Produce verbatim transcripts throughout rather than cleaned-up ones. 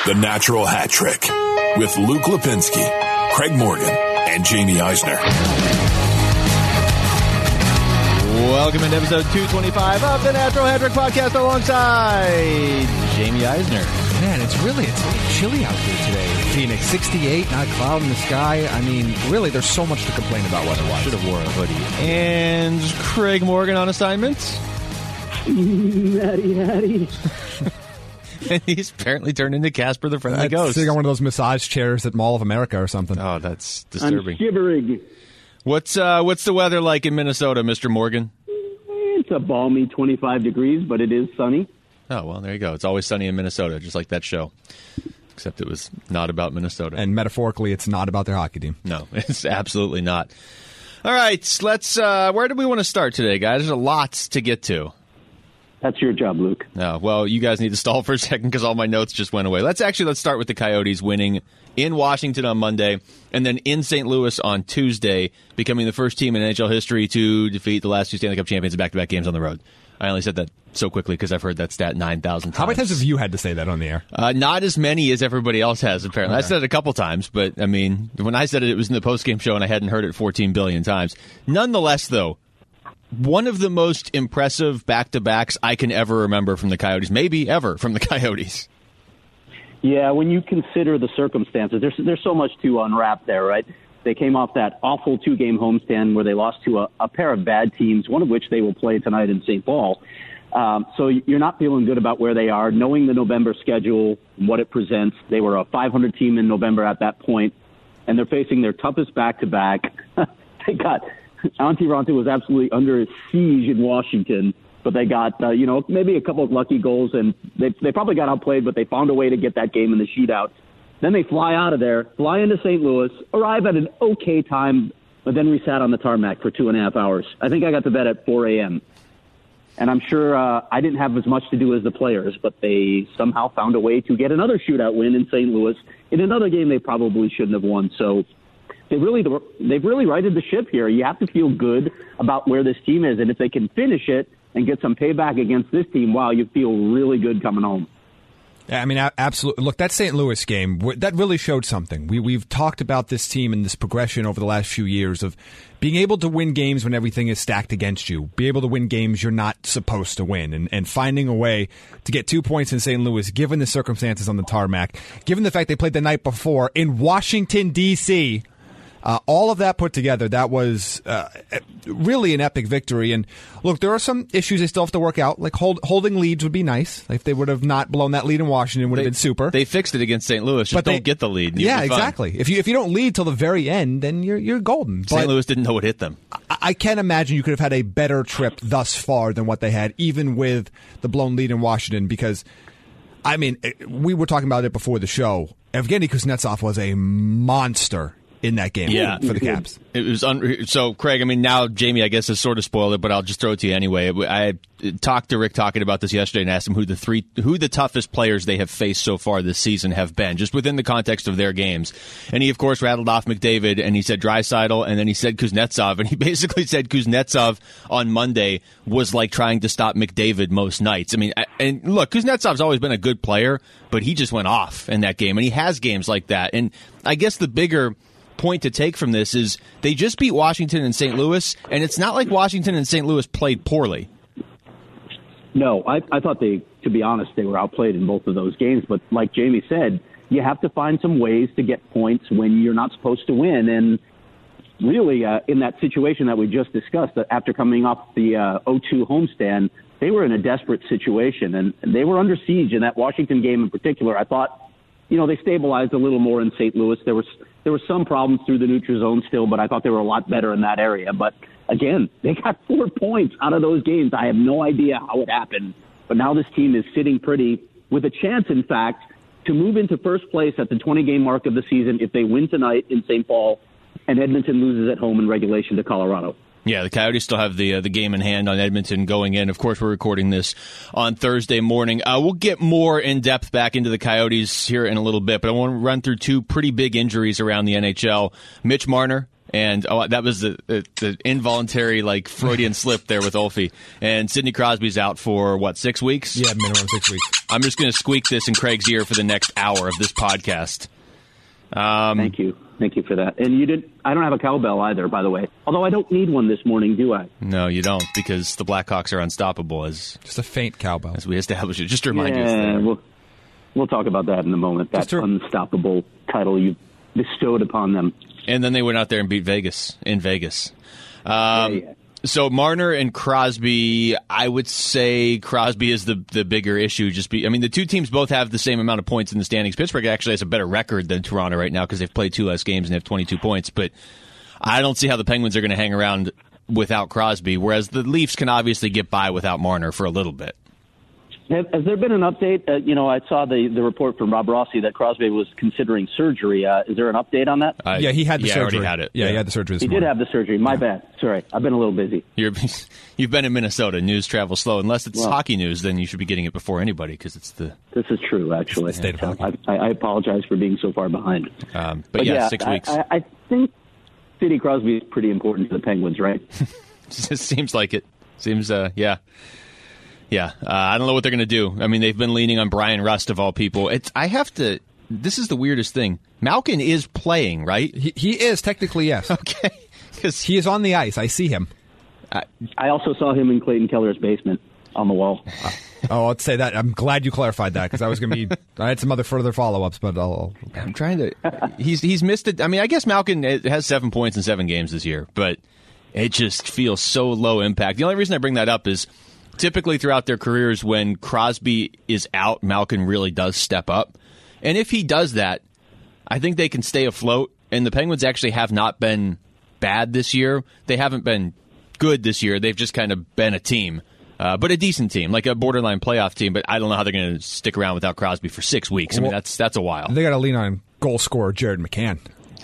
The Natural Hat Trick with Luke Lipinski, Craig Morgan, and Jamie Eisner. Welcome into episode two twenty-five of the Natural Hat Trick podcast alongside Jamie Eisner. Man, it's really, it's a little chilly out here today. Phoenix, sixty-eight, not a cloud in the sky. I mean, really, there's so much to complain about weather-wise. Should have wore a hoodie. And Craig Morgan on assignment. Hattie, hattie. And he's apparently turned into Casper the Friendly Uh, Ghost. Sitting on one of those massage chairs at Mall of America or something. Oh, that's disturbing. I'm shivering. What's uh, what's the weather like in Minnesota, Mister Morgan? It's a balmy twenty-five degrees, but it is sunny. Oh, well, there you go. It's always sunny in Minnesota, just like that show. Except it was not about Minnesota. And metaphorically, it's not about their hockey team. No, it's absolutely not. All right, let's. Uh, where do we want to start today, guys? There's a lot to get to. That's your job, Luke. No, well, you guys need to stall for a second because all my notes just went away. Let's actually let's start with the Coyotes winning in Washington on Monday and then in Saint Louis on Tuesday, becoming the first team in N H L history to defeat the last two Stanley Cup champions in back-to-back games on the road. I only said that so quickly because I've heard that stat nine thousand times. How many times have you had to say that on the air? Uh, not as many as everybody else has, apparently. Okay. I said it a couple times, but, I mean, when I said it, it was in the postgame show and I hadn't heard it fourteen billion times. Nonetheless, though, one of the most impressive back-to-backs I can ever remember from the Coyotes, maybe ever from the Coyotes. Yeah, when you consider the circumstances, there's there's so much to unwrap there, right? They came off that awful two-game homestand where they lost to a, a pair of bad teams, one of which they will play tonight in Saint Paul. Um, so you're not feeling good about where they are, knowing the November schedule, what it presents. They were a five hundred team in November at that point, and they're facing their toughest back-to-back. They got Antti Raanta was absolutely under siege in Washington, but they got, uh, you know, maybe a couple of lucky goals, and they they probably got outplayed, but they found a way to get that game in the shootout. Then they fly out of there, fly into Saint Louis, arrive at an okay time, but then we sat on the tarmac for two and a half hours. I think I got to bed at four a.m., and I'm sure uh, I didn't have as much to do as the players, but they somehow found a way to get another shootout win in Saint Louis in another game they probably shouldn't have won. So They really, they've really righted the ship here. You have to feel good about where this team is, and if they can finish it and get some payback against this team, wow, you feel really good coming home. Yeah, I mean, absolutely. Look, that Saint Louis game, that really showed something. We, we've talked about this team and this progression over the last few years of being able to win games when everything is stacked against you, be able to win games you're not supposed to win, and, and finding a way to get two points in Saint Louis, given the circumstances on the tarmac, given the fact they played the night before in Washington, D C, Uh, all of that put together, that was uh, really an epic victory. And look, there are some issues they still have to work out. Like hold, holding leads would be nice. If they would have not blown that lead in Washington, would have They- been super. They fixed it against Saint Louis. Just But don't they- get the lead. and you'll Yeah, be fine. exactly. If you if you don't lead till the very end, then you're you're golden. Saint But Louis didn't know what hit them. I, I can't imagine you could have had a better trip thus far than what they had, even with the blown lead in Washington. Because, I mean, it- we were talking about it before the show. Evgeny Kuznetsov was a monster in that game Yeah. for the Caps. It was un- so, Craig. I mean, now Jamie, I guess, has sort of spoiled it, but I'll just throw it to you anyway. I talked to Rick talking about this yesterday and asked him who the three, who the toughest players they have faced so far this season have been, just within the context of their games. And he, of course, rattled off McDavid, and he said Draisaitl, and then he said Kuznetsov, and he basically said Kuznetsov on Monday was like trying to stop McDavid most nights. I mean, and look, Kuznetsov's always been a good player, but he just went off in that game, and he has games like that. And I guess the bigger point to take from this is they just beat Washington and Saint Louis, and it's not like Washington and Saint Louis played poorly. No, I, I thought they, to be honest, they were outplayed in both of those games. But like Jamie said, you have to find some ways to get points when you're not supposed to win. And really, uh, in that situation that we just discussed, that after coming off the uh, oh two homestand, they were in a desperate situation, and they were under siege in that Washington game in particular. I thought, you know, they stabilized a little more in Saint Louis. There was there were some problems through the neutral zone still, but I thought they were a lot better in that area. But again, they got four points out of those games. I have no idea how it happened, but now this team is sitting pretty with a chance, in fact, to move into first place at the twenty-game mark of the season if they win tonight in Saint Paul and Edmonton loses at home in regulation to Colorado. Yeah, the Coyotes still have the uh, the game in hand on Edmonton going in. Of course, we're recording this on Thursday morning. Uh, we'll get more in depth back into the Coyotes here in a little bit, but I want to run through two pretty big injuries around the N H L. Mitch Marner And oh, that was the, the, the involuntary like Freudian slip there with Olfie. And Sidney Crosby's out for, what, six weeks? Yeah, minimum six weeks. I'm just going to squeak this in Craig's ear for the next hour of this podcast. Um, Thank you. Thank you for that. And you did. I don't have a cowbell either, by the way. Although I don't need one this morning, do I? No, you don't, because the Blackhawks are unstoppable, as Just a faint cowbell. as we established it. Just to remind yeah, you. we'll, we'll talk about that in a moment. That to- unstoppable title you bestowed upon them. And then they went out there and beat Vegas in Vegas. Um, Yeah, yeah. So Marner and Crosby, I would say Crosby is the the bigger issue. Just be, I mean, the two teams both have the same amount of points in the standings. Pittsburgh actually has a better record than Toronto right now because they've played two less games and they have twenty-two points. But I don't see how the Penguins are going to hang around without Crosby, whereas the Leafs can obviously get by without Marner for a little bit. Has, has there been an update? Uh, you know, I saw the, the report from Rob Rossi that Crosby was considering surgery. Uh, is there an update on that? Uh, yeah, he had the yeah, I surgery. already had it. Yeah, he had the surgery this he morning. did have the surgery. My bad. Sorry, I've been a little busy. You're, you've been in Minnesota. News travels slow. Unless it's Well, hockey news, then you should be getting it before anybody because it's the. This is true, actually. It's the state of hockey. I, I apologize for being so far behind. Um, but, yeah, six I, weeks. I, I think Sidney Crosby is pretty important to the Penguins, right? Seems like it. Seems, uh, yeah. Yeah. Uh, I don't know what they're going to do. I mean, they've been leaning on Brian Rust, of all people. It's, I have to. This is the weirdest thing. Malkin is playing, right? He, he is, technically, yes. Okay. Because He is on the ice. I see him. I also saw him in Clayton Keller's basement on the wall. Oh, I'd say that. I'm glad you clarified that because I was going to be. I had some other further follow-ups, but I'll. I'm trying to. He's he's missed it. I mean, I guess Malkin has seven points in seven games this year, but it just feels so low impact. The only reason I bring that up is typically throughout their careers, when Crosby is out, Malkin really does step up, and if he does that, I think they can stay afloat. And the Penguins actually have not been bad this year. They haven't been good this year. They've just kind of been a team. Uh, but a decent team, like a borderline playoff team. But I don't know how they're going to stick around without Crosby for six weeks. I mean, Well, that's that's a while. They got to lean on goal scorer Jared McCann.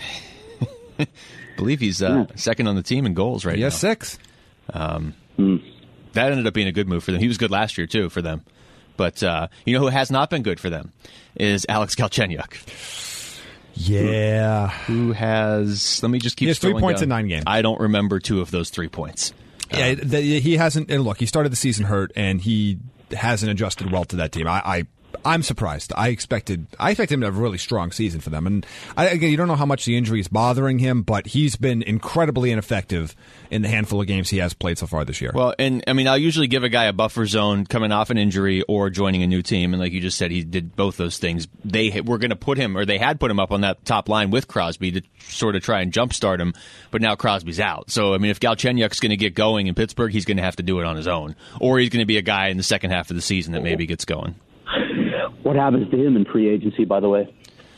I believe he's uh, second on the team in goals right He now. has six. That ended up being a good move for them. He was good last year, too, for them. But uh, you know who has not been good for them is Alex Galchenyuk, Yeah. who has, let me just keep He has three scrolling points down. in nine games. I don't remember two of those three points. Yeah, the, he hasn't. And look, he started the season hurt, and he hasn't adjusted well to that team. I, I I'm surprised. I expected I expected him to have a really strong season for them. And I, again, you don't know how much the injury is bothering him, but he's been incredibly ineffective in the handful of games he has played so far this year. Well, and I mean, I'll usually give a guy a buffer zone coming off an injury or joining a new team, and like you just said, he did both those things. They were going to put him, or they had put him up on that top line with Crosby to sort of try and jumpstart him, but now Crosby's out. So, I mean, if Galchenyuk's going to get going in Pittsburgh, he's going to have to do it on his own, or he's going to be a guy in the second half of the season that maybe gets going. What happens to him in free agency, by the way?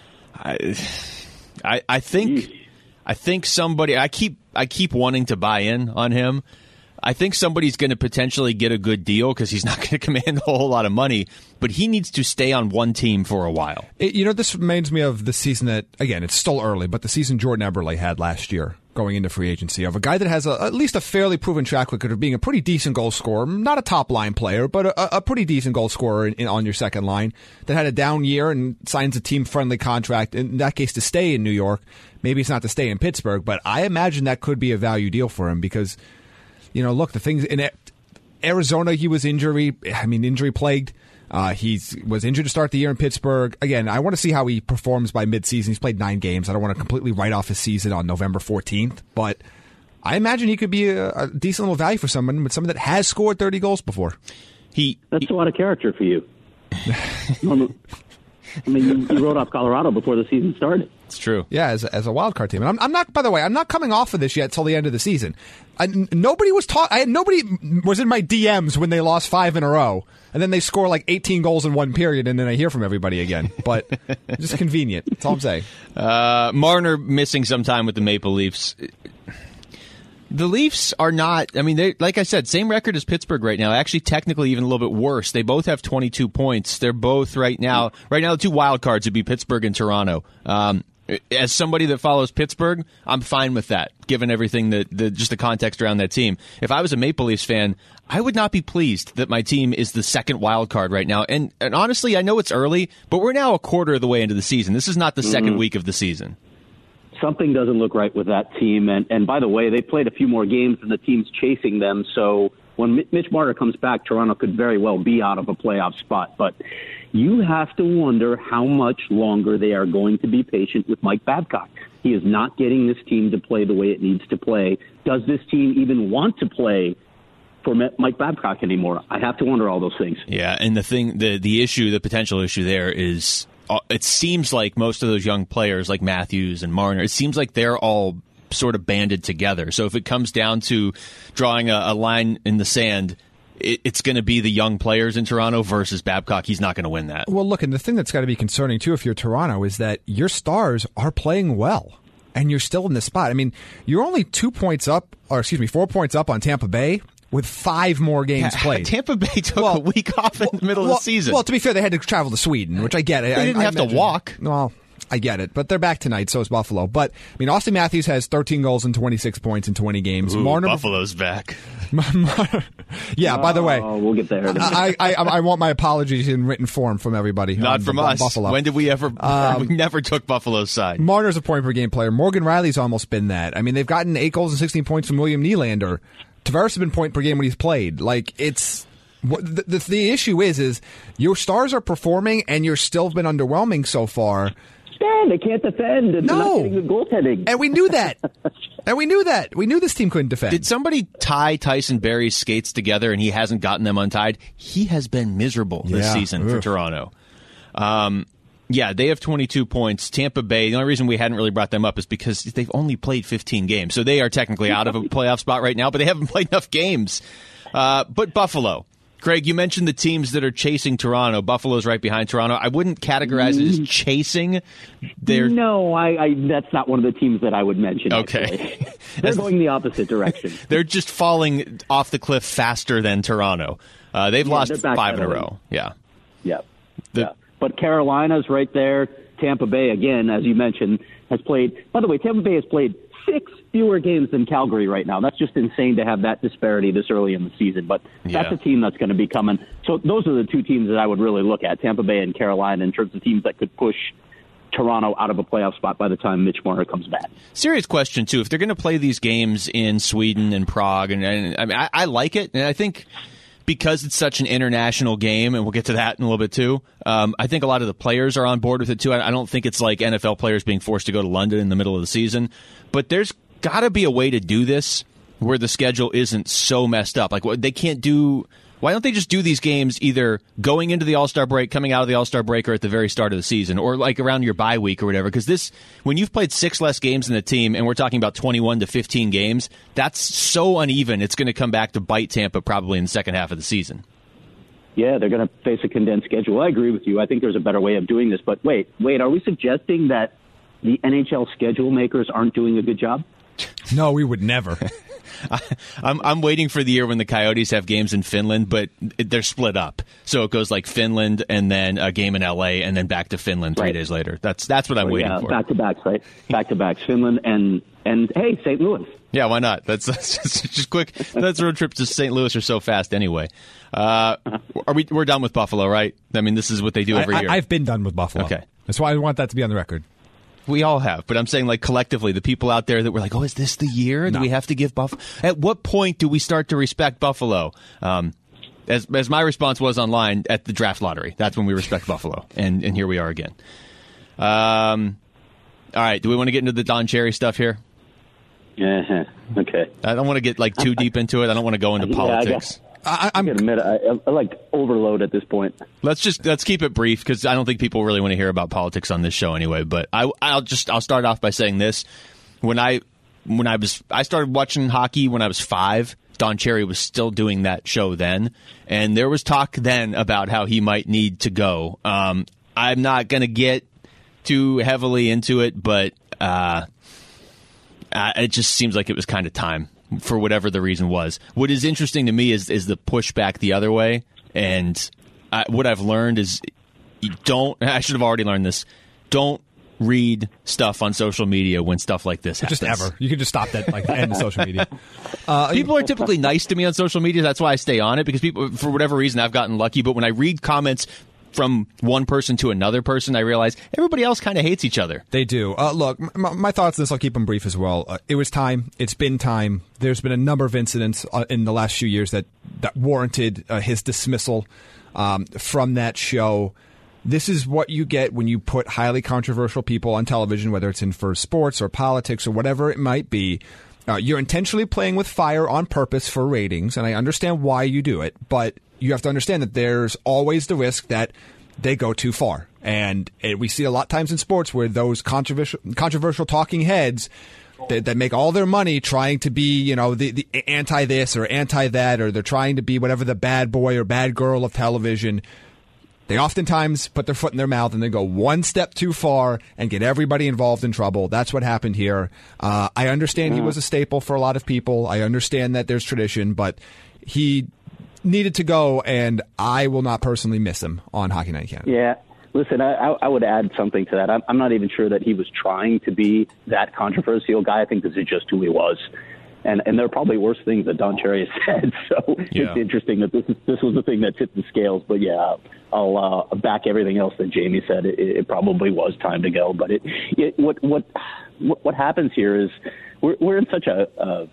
I, I, I think, I think somebody. I keep, I keep wanting to buy in on him. I think somebody's going to potentially get a good deal because he's not going to command a whole lot of money, but he needs to stay on one team for a while. It, you know, this reminds me of the season that, again, it's still early, but the season Jordan Eberle had last year going into free agency of a guy that has a, at least a fairly proven track record of being a pretty decent goal scorer, not a top line player, but a, a pretty decent goal scorer in, in, on your second line that had a down year and signs a team friendly contract, in that case to stay in New York. Maybe it's not to stay in Pittsburgh, but I imagine that could be a value deal for him because, you know, look, the things in Arizona, he was injury, I mean, injury plagued. Uh, he was injured to start the year in Pittsburgh. Again, I want to see how he performs by midseason. He's played nine games. I don't want to completely write off his season on November fourteenth, but I imagine he could be a, a decent little value for someone, but someone that has scored thirty goals before. He, That's he a lot of character for you. Normal- I mean, you, you wrote off Colorado before the season started. it's true. Yeah, as a, as a wild card team. And I'm, I'm not. By the way, I'm not coming off of this yet till the end of the season. I, n- nobody was taught. I had nobody was in my D Ms when they lost five in a row, and then they score like eighteen goals in one period, and then I hear from everybody again. But just convenient. That's all I'm saying. Uh, Marner missing some time with the Maple Leafs. The Leafs are not, I mean, they like I said, same record as Pittsburgh right now. Actually, technically, even a little bit worse. They both have twenty-two points. They're both right now, right now, the two wild cards would be Pittsburgh and Toronto. Um, as somebody that follows Pittsburgh, I'm fine with that, given everything that, the, just the context around that team. If I was a Maple Leafs fan, I would not be pleased that my team is the second wild card right now. And, and honestly, I know it's early, but we're now a quarter of the way into the season. This is not the mm-hmm. second week of the season. something doesn't look right with that team. And, and by the way, they played a few more games than the team's chasing them. So when Mitch Marner comes back, Toronto could very well be out of a playoff spot. But you have to wonder how much longer they are going to be patient with Mike Babcock. He is not getting this team to play the way it needs to play. Does this team even want to play for Mike Babcock anymore? I have to wonder all those things. Yeah, and the thing, the the issue, the potential issue there is, uh, it seems like most of those young players like Matthews and Marner, it seems like they're all sort of banded together. So if it comes down to drawing a, a line in the sand, it, it's going to be the young players in Toronto versus Babcock. He's not going to win that. Well, look, and the thing that's got to be concerning, too, if you're Toronto, is that your stars are playing well, and you're still in this spot. I mean, you're only two points up, or excuse me, four points up on Tampa Bay with five more games yeah, played. Tampa Bay took well, a week off in the middle well, of the season. Well, to be fair, they had to travel to Sweden, which I get. They I, didn't I, have I to walk. Well, I get it, but they're back tonight, so is Buffalo. But, I mean, Austin Matthews has thirteen goals and twenty-six points in twenty games. Ooh, Marner, Buffalo's back. yeah, oh, by the way. We'll get there. I, I, I want my apologies in written form from everybody. Not on, from on us. Buffalo. When did we ever? Um, we never took Buffalo's side. Marner's a point-per-game player. Morgan Riley's almost been that. I mean, they've gotten eight goals and sixteen points from William Nylander. Tavares has been point per game when he's played. Like, it's the, the the issue is is your stars are performing and you're still been underwhelming so far. Yeah, they can't defend. And no, they're not getting good goaltending. And we knew that. and we knew that. We knew this team couldn't defend. Did somebody tie Tyson Barrie's skates together and he hasn't gotten them untied? He has been miserable this yeah. season Oof. for Toronto. Um, yeah, they have twenty-two points. Tampa Bay, the only reason we hadn't really brought them up is because they've only played fifteen games. So they are technically out of a playoff spot right now, but they haven't played enough games. Uh, but Buffalo. Craig, you mentioned the teams that are chasing Toronto. Buffalo's right behind Toronto. I wouldn't categorize it as chasing. They're no, I, I, that's not one of the teams that I would mention. Okay. They're going the opposite direction. They're just falling off the cliff faster than Toronto. Uh, they've yeah, lost five in a row. Yeah. Yeah. The, yeah. But Carolina's right there. Tampa Bay, again, as you mentioned, has played. By the way, Tampa Bay has played six fewer games than Calgary right now. That's just insane to have that disparity this early in the season. But yeah. that's a team that's going to be coming. So those are the two teams that I would really look at, Tampa Bay and Carolina, in terms of teams that could push Toronto out of a playoff spot by the time Mitch Marner comes back. Serious question, too. If they're going to play these games in Sweden and Prague, and, and I mean, I, I like it, and I think because it's such an international game, and we'll get to that in a little bit too, um, I think a lot of the players are on board with it too. I, I don't think it's like N F L players being forced to go to London in the middle of the season, but there's got to be a way to do this where the schedule isn't so messed up. Like, they can't do... Why don't they just do these games either going into the All-Star break, coming out of the All-Star break, or at the very start of the season, or like around your bye week or whatever? Because this, when you've played six less games in the team, and we're talking about twenty-one to fifteen games, that's so uneven. It's going to come back to bite Tampa probably in the second half of the season. Yeah, they're going to face a condensed schedule. I agree with you. I think there's a better way of doing this. But wait, wait, are we suggesting that the N H L schedule makers aren't doing a good job? No, we would never. I, I'm I'm waiting for the year when the Coyotes have games in Finland, but it, they're split up. So it goes like Finland and then a game in L A and then back to Finland three right. days later. That's that's what I'm oh, waiting yeah, for. Back to backs, right? Back to backs, Finland and and hey, Saint Louis. Yeah, why not? That's, that's just, just quick. That's road trips to Saint Louis are so fast anyway. Uh, are we? We're done with Buffalo, right? I mean, this is what they do every I, year. I, I've been done with Buffalo. Okay, that's why I want that to be on the record. We all have, but I'm saying like collectively, the people out there that were like, "Oh, is this the year? Do no. we have to give Buffalo?" At what point do we start to respect Buffalo? Um, as as my response was online at the draft lottery, that's when we respect Buffalo, and and here we are again. Um, all right, do we want to get into the Don Cherry stuff here? Yeah. Okay. I don't want to get like too deep into it. I don't want to go into yeah, politics. I, I'm I admit, I, I like overload at this point. Let's just let's keep it brief because I don't think people really want to hear about politics on this show anyway. But I, I'll just I'll start off by saying this: when I when I was I started watching hockey when I was five. Don Cherry was still doing that show then, and there was talk then about how he might need to go. Um, I'm not going to get too heavily into it, but uh, uh, it just seems like it was kind of time. For whatever the reason was. What is interesting to me is is the pushback the other way, and I, what I've learned is you don't. I should have already learned this. Don't read stuff on social media when stuff like this happens. Just ever. You can just stop that like the end of social media. Uh, people are typically nice to me on social media. That's why I stay on it because people, for whatever reason, I've gotten lucky. But when I read comments from one person to another person, I realize everybody else kind of hates each other. They do. Uh, look, my, my thoughts on this, I'll keep them brief as well. Uh, it was time. It's been time. There's been a number of incidents uh, in the last few years that, that warranted uh, his dismissal um, from that show. This is what you get when you put highly controversial people on television, whether it's in for sports or politics or whatever it might be. Uh, you're intentionally playing with fire on purpose for ratings, and I understand why you do it, but you have to understand that there's always the risk that they go too far. And it, we see a lot of times in sports where those controversial controversial talking heads that, that make all their money trying to be, you know, the, the anti-this or anti-that, or they're trying to be whatever the bad boy or bad girl of television. They oftentimes put their foot in their mouth and they go one step too far and get everybody involved in trouble. That's what happened here. Uh, I understand he was a staple for a lot of people. I understand that there's tradition, but he needed to go, and I will not personally miss him on Hockey Night in Canada. Yeah. Listen, I, I would add something to that. I'm, I'm not even sure that he was trying to be that controversial guy. I think this is just who he was. And and there are probably worse things that Don Cherry has said. So yeah. It's interesting that this is, this was the thing that tipped the scales. But yeah, I'll uh, back everything else that Jamie said. It, it probably was time to go. But it, it what what what happens here is we're we're in such a uh,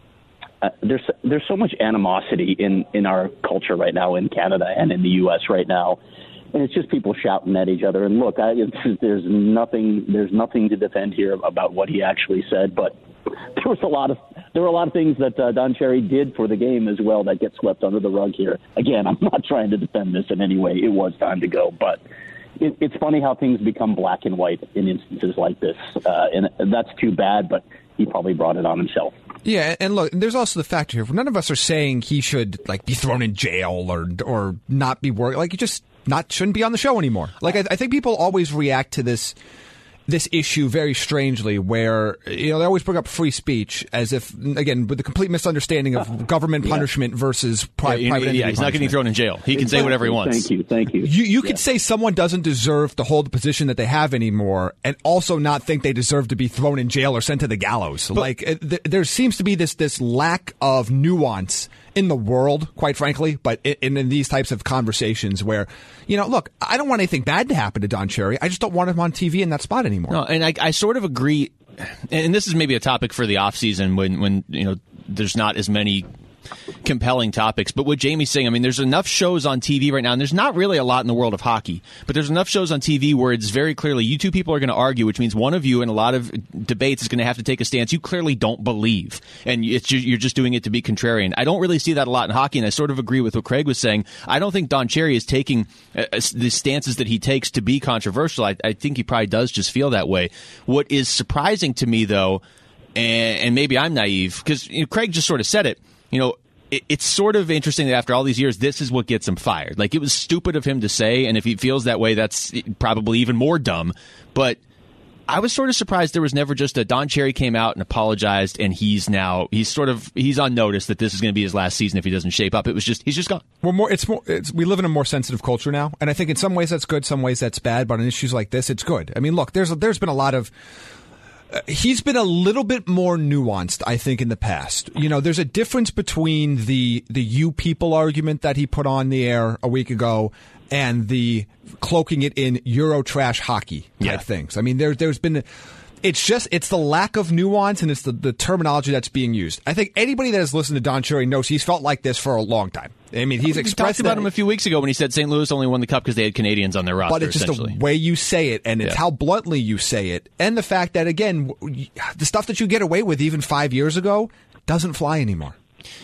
uh, there's there's so much animosity in, in our culture right now in Canada and in the U S right now. And it's just people shouting at each other. And look, I, it's, there's nothing there's nothing to defend here about what he actually said, but there was a lot of there were a lot of things that uh, Don Cherry did for the game as well that get swept under the rug here. Again, I'm not trying to defend this in any way. It was time to go, but it, it's funny how things become black and white in instances like this, uh, and, and that's too bad. But he probably brought it on himself. Yeah, and look, there's also the factor here. None of us are saying he should like be thrown in jail or or not be working. Like, he just not shouldn't be on the show anymore. Like, I, I think people always react to this. this issue very strangely, where, you know, they always bring up free speech as if, again, with the complete misunderstanding of government punishment yeah. versus pri- yeah, private entity Yeah, he's punishment. not getting thrown in jail. He can exactly. say whatever he wants. Thank you, thank you. You, you yeah. could say someone doesn't deserve to hold the position that they have anymore, and also not think they deserve to be thrown in jail or sent to the gallows. But, like, it, th- there seems to be this this lack of nuance in the world, quite frankly, but in, in these types of conversations where, you know, look, I don't want anything bad to happen to Don Cherry. I just don't want him on T V in that spot anymore. No, and I, I sort of agree, and this is maybe a topic for the offseason when, when, you know, there's not as many compelling topics. But what Jamie's saying, I mean, there's enough shows on T V right now, and there's not really a lot in the world of hockey, but there's enough shows on T V where it's very clearly you two people are going to argue, which means one of you in a lot of debates is going to have to take a stance you clearly don't believe, and it's just, you're just doing it to be contrarian. I don't really see that a lot in hockey, and I sort of agree with what Craig was saying. I don't think Don Cherry is taking uh, the stances that he takes to be controversial. I, I think he probably does just feel that way. What is surprising to me, though, and, and maybe I'm naive, because you know, Craig just sort of said it, you know, it, it's sort of interesting that after all these years, this is what gets him fired. Like, it was stupid of him to say, and if he feels that way, that's probably even more dumb. But I was sort of surprised there was never just a Don Cherry came out and apologized, and he's now he's sort of he's on notice that this is going to be his last season if he doesn't shape up. It was just he's just gone. We're more. It's more. It's, we live in a more sensitive culture now, and I think in some ways that's good, some ways that's bad. But on issues like this, it's good. I mean, look, there's there's been a lot of. Uh, he's been a little bit more nuanced, I think, in the past. You know, there's a difference between the the you people argument that he put on the air a week ago and the cloaking it in Euro trash hockey type yeah. things. I mean, there, there's been... It's just, it's the lack of nuance and it's the, the terminology that's being used. I think anybody that has listened to Don Cherry knows he's felt like this for a long time. I mean, he's we expressed talked about that, him a few weeks ago when he said Saint Louis only won the cup because they had Canadians on their roster. But it's just the way you say it, and it's yeah. how bluntly you say it, and the fact that, again, the stuff that you get away with even five years ago doesn't fly anymore.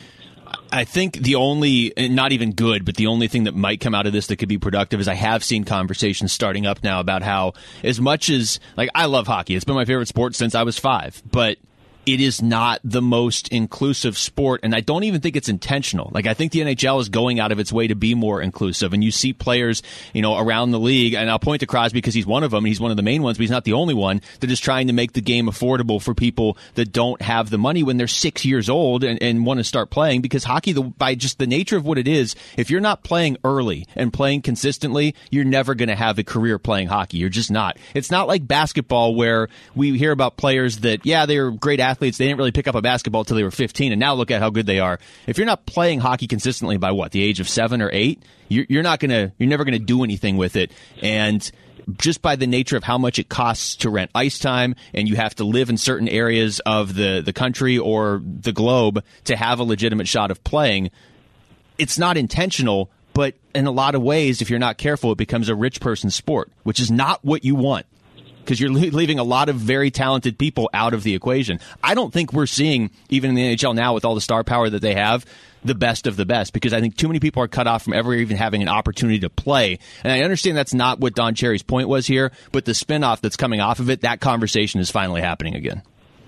I think the only, not even good, but the only thing that might come out of this that could be productive is I have seen conversations starting up now about how, as much as, like, I love hockey. It's been my favorite sport since I was five, but it is not the most inclusive sport, and I don't even think it's intentional. Like, I think the N H L is going out of its way to be more inclusive, and you see players, you know, around the league, and I'll point to Crosby because he's one of them, and he's one of the main ones, but he's not the only one, that is trying to make the game affordable for people that don't have the money when they're six years old and, and want to start playing, because hockey, the, by just the nature of what it is, if you're not playing early and playing consistently, you're never going to have a career playing hockey. You're just not. It's not like basketball where we hear about players that, yeah, they're great athletes, athletes, they didn't really pick up a basketball until they were fifteen, and now look at how good they are. If you're not playing hockey consistently by what, the age of seven or eight, you're, you're not gonna, you're never gonna do anything with it. And just by the nature of how much it costs to rent ice time, and you have to live in certain areas of the, the country or the globe to have a legitimate shot of playing, it's not intentional, but in a lot of ways, if you're not careful, it becomes a rich person's sport, which is not what you want, because you're leaving a lot of very talented people out of the equation. I don't think we're seeing, even in the N H L now with all the star power that they have, the best of the best, because I think too many people are cut off from ever even having an opportunity to play. And I understand that's not what Don Cherry's point was here, but the spinoff that's coming off of it, that conversation is finally happening again.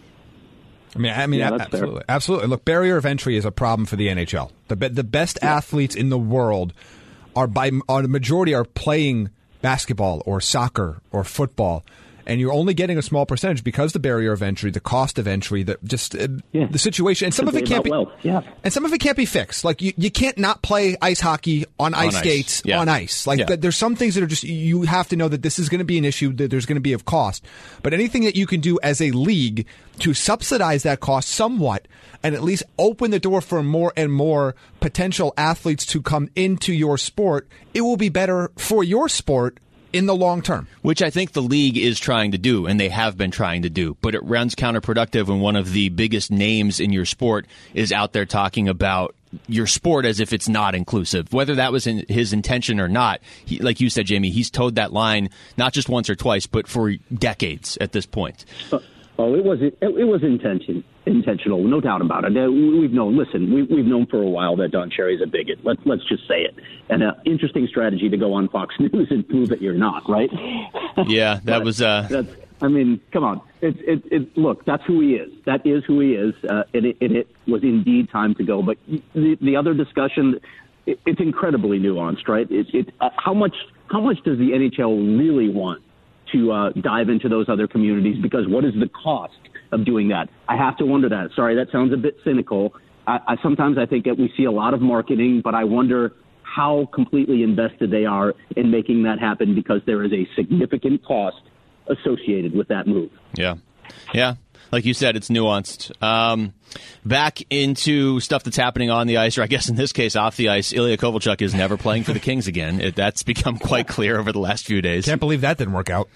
I mean, I mean, yeah, absolutely, fair. absolutely. Look, barrier of entry is a problem for the N H L. The the best yeah. athletes in the world are by are the majority are playing basketball or soccer or football. And you're only getting a small percentage because the barrier of entry, the cost of entry, the just uh, yeah. the situation, and some of it can't be, yeah. and some of it can't be fixed. Like you, you can't not play ice hockey on, on ice skates yeah. on ice. Like yeah. th- there's some things that are just you have to know that this is going to be an issue, that there's going to be of cost. But anything that you can do as a league to subsidize that cost somewhat, and at least open the door for more and more potential athletes to come into your sport, it will be better for your sport in the long term. Which I think the league is trying to do, and they have been trying to do. But it runs counterproductive when one of the biggest names in your sport is out there talking about your sport as if it's not inclusive. Whether that was in his intention or not, he, like you said, Jamie, he's towed that line not just once or twice, but for decades at this point. Uh, oh, it was it, it was intention. Intentional, no doubt about it. Uh, we've known. Listen, we, we've known for a while that Don Cherry's a bigot. Let's let's just say it. And an interesting strategy to go on Fox News and prove that you're not, right? Yeah, that was. Uh... That's, I mean, come on. It, it, it, look, that's who he is. That is who he is. Uh, and it, it, it was indeed time to go. But the, the other discussion, it, it's incredibly nuanced, right? It, it, uh, how much how much does the N H L really want to uh, dive into those other communities? Because what is the cost of doing that? I have to wonder that. Sorry, that sounds a bit cynical. I, I sometimes I think that we see a lot of marketing, but I wonder how completely invested they are in making that happen, because there is a significant cost associated with that move. Yeah. Yeah. Like you said, it's nuanced. Um, back into stuff that's happening on the ice, or I guess in this case off the ice. Ilya Kovalchuk is never playing for the Kings again. It, that's become quite clear over the last few days. Can't believe that didn't work out.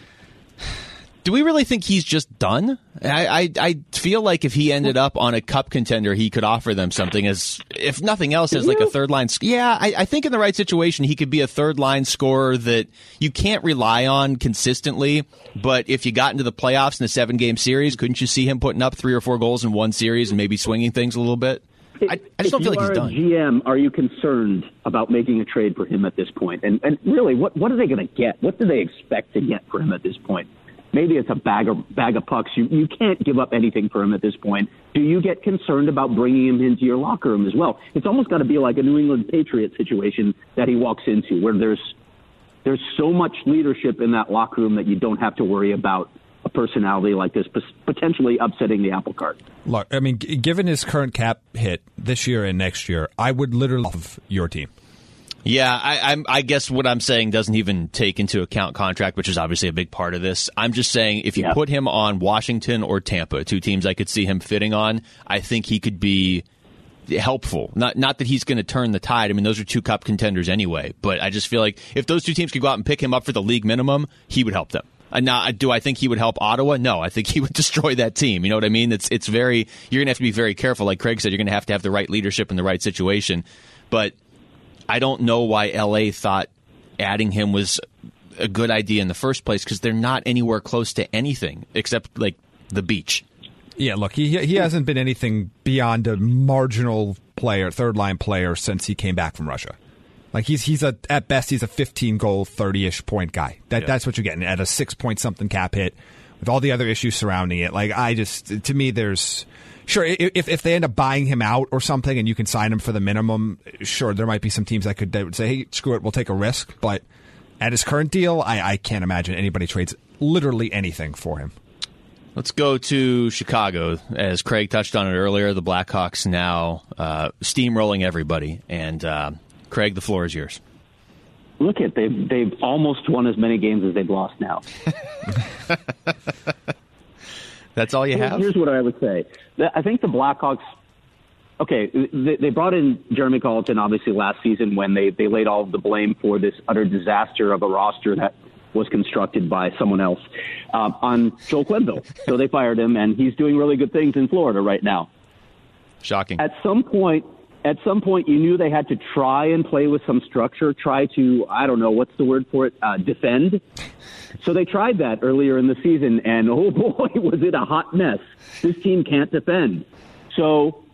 Do we really think he's just done? I, I I feel like if he ended up on a cup contender, he could offer them something as, if nothing else, as like a third line. Yeah, I, I think in the right situation, he could be a third line scorer that you can't rely on consistently. But if you got into the playoffs in a seven game series, couldn't you see him putting up three or four goals in one series and maybe swinging things a little bit? I, I just don't feel like he's done. If you are a G M, are you concerned about making a trade for him at this point? And, and really, what, what are they going to get? What do they expect to get for him at this point? Maybe it's a bag of bag of pucks. You you can't give up anything for him at this point. Do you get concerned about bringing him into your locker room as well? It's almost got to be like a New England Patriots situation that he walks into, where there's there's so much leadership in that locker room that you don't have to worry about a personality like this potentially upsetting the apple cart. Look, I mean, given his current cap hit this year and next year, I would literally love your team. Yeah, I, I'm, I guess what I'm saying doesn't even take into account contract, which is obviously a big part of this. I'm just saying if you yeah. put him on Washington or Tampa, two teams I could see him fitting on, I think he could be helpful. Not not that he's going to turn the tide. I mean, those are two cup contenders anyway. But I just feel like if those two teams could go out and pick him up for the league minimum, he would help them. And now, do I think he would help Ottawa? No, I think he would destroy that team. You know what I mean? It's it's very you're going to have to be very careful. Like Craig said, you're going to have to have the right leadership in the right situation. But I don't know why L A thought adding him was a good idea in the first place, because they're not anywhere close to anything except like the beach. Yeah, look, he he hasn't been anything beyond a marginal player, third line player since he came back from Russia. Like he's he's a at best he's a fifteen goal, thirty-ish point guy. That yeah. that's what you're getting at a six point something cap hit with all the other issues surrounding it. Like I just to me there's. Sure, if if they end up buying him out or something and you can sign him for the minimum, sure, there might be some teams that could that would say, hey, screw it, we'll take a risk. But at his current deal, I, I can't imagine anybody trades literally anything for him. Let's go to Chicago. As Craig touched on it earlier, the Blackhawks now uh, steamrolling everybody. And uh, Craig, the floor is yours. Look at they've they've almost won as many games as they've lost now. That's all you have? Here's what I would say. I think the Blackhawks, okay, they brought in Jeremy Colleton, obviously, last season when they, they laid all of the blame for this utter disaster of a roster that was constructed by someone else uh, on Joel Quenneville. So they fired him, and he's doing really good things in Florida right now. Shocking. At some point, at some point, you knew they had to try and play with some structure, try to, I don't know, what's the word for it, uh, defend. So they tried that earlier in the season, and oh boy, was it a hot mess. This team can't defend. So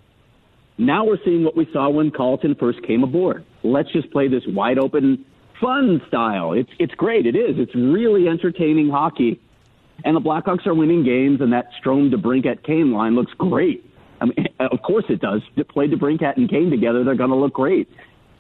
now we're seeing what we saw when Colleton first came aboard. Let's just play this wide open, fun style. It's it's great. It is. It's really entertaining hockey. And the Blackhawks are winning games, and that Strome, DeBrincat, Kane line looks great. I mean, of course it does. To play DeBrincat and Kane together, they're going to look great.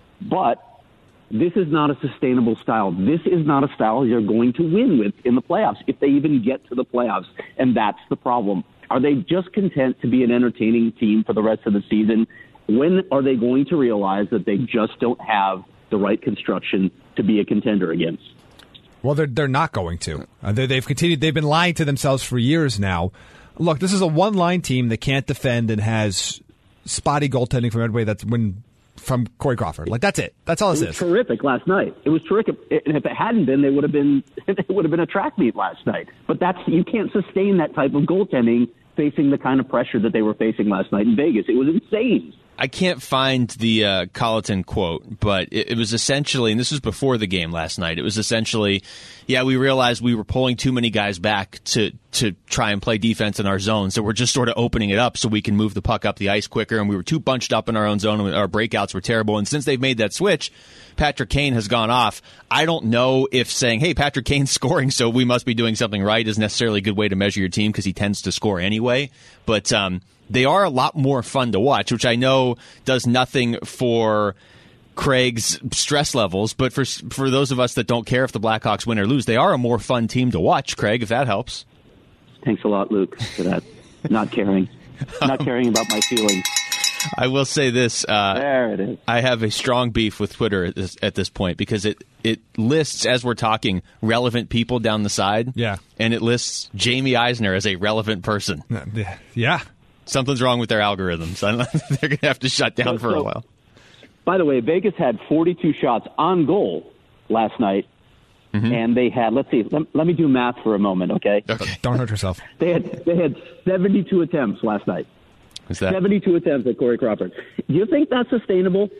But this is not a sustainable style. This is not a style you're going to win with in the playoffs, if they even get to the playoffs. And that's the problem. Are they just content to be an entertaining team for the rest of the season? When are they going to realize that they just don't have the right construction to be a contender against? Well, they're they're not going to. Uh, they, they've continued. They've been lying to themselves for years now. Look, this is a one-line team that can't defend and has spotty goaltending from everybody that's when from Corey Crawford. Like that's it. That's all this it was is. Terrific last night. It was terrific. And if it hadn't been, they would have been. It would have been a track meet last night. But that's you can't sustain that type of goaltending facing the kind of pressure that they were facing last night in Vegas. It was insane. I can't find the uh, Colleton quote, but it, it was essentially, and this was before the game last night, it was essentially, yeah, we realized we were pulling too many guys back to, to try and play defense in our zone, so we're just sort of opening it up so we can move the puck up the ice quicker, and we were too bunched up in our own zone, and our breakouts were terrible, and since they've made that switch, Patrick Kane has gone off. I don't know if saying, hey, Patrick Kane's scoring, so we must be doing something right is necessarily a good way to measure your team because he tends to score anyway, but um they are a lot more fun to watch, which I know does nothing for Craig's stress levels, but for for those of us that don't care if the Blackhawks win or lose, they are a more fun team to watch, Craig, if that helps. Thanks a lot, Luke, for that. Not caring. Not caring about my feelings. I will say this. Uh, there it is. I have a strong beef with Twitter at this, at this point because it, it lists, as we're talking, relevant people down the side. Yeah. And it lists Jamie Eisner as a relevant person. Yeah. Something's wrong with their algorithms. I don't know. They're going to have to shut down so, for so, a while. By the way, Vegas had forty-two shots on goal last night, mm-hmm. and they had, let's see, let, let me do math for a moment, okay? Okay. Don't hurt yourself. They had they had seventy-two attempts last night. Is that? seventy-two attempts at Corey Crawford. Do you think that's sustainable?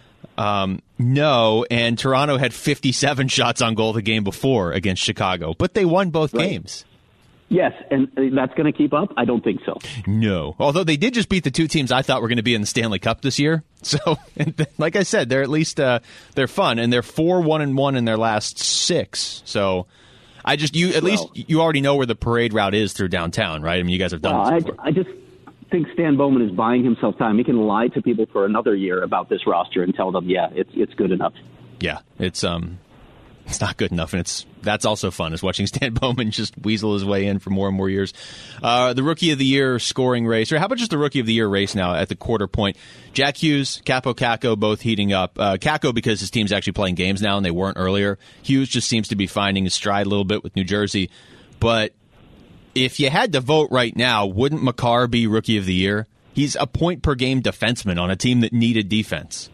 Um, no, and Toronto had fifty-seven shots on goal the game before against Chicago, but they won both right. games. Yes, and that's going to keep up? I don't think so. No. Although they did just beat the two teams I thought were going to be in the Stanley Cup this year. So, like I said, they're at least uh, they're fun, and they're four one and one in their last six. So, I just you at well, least you already know where the parade route is through downtown, right? I mean, you guys have done well, this before. I, I just think Stan Bowman is buying himself time. He can lie to people for another year about this roster and tell them, yeah, it's it's good enough. Yeah, it's um. It's not good enough, and it's that's also fun, is watching Stan Bowman just weasel his way in for more and more years. Uh, the Rookie of the Year scoring race, or how about just the Rookie of the Year race now at the quarter point? Jack Hughes, Kaapo Kakko both heating up. Uh, Kakko because his team's actually playing games now, and they weren't earlier. Hughes just seems to be finding his stride a little bit with New Jersey. But if you had to vote right now, wouldn't Makar be Rookie of the Year? He's a point-per-game defenseman on a team that needed defense.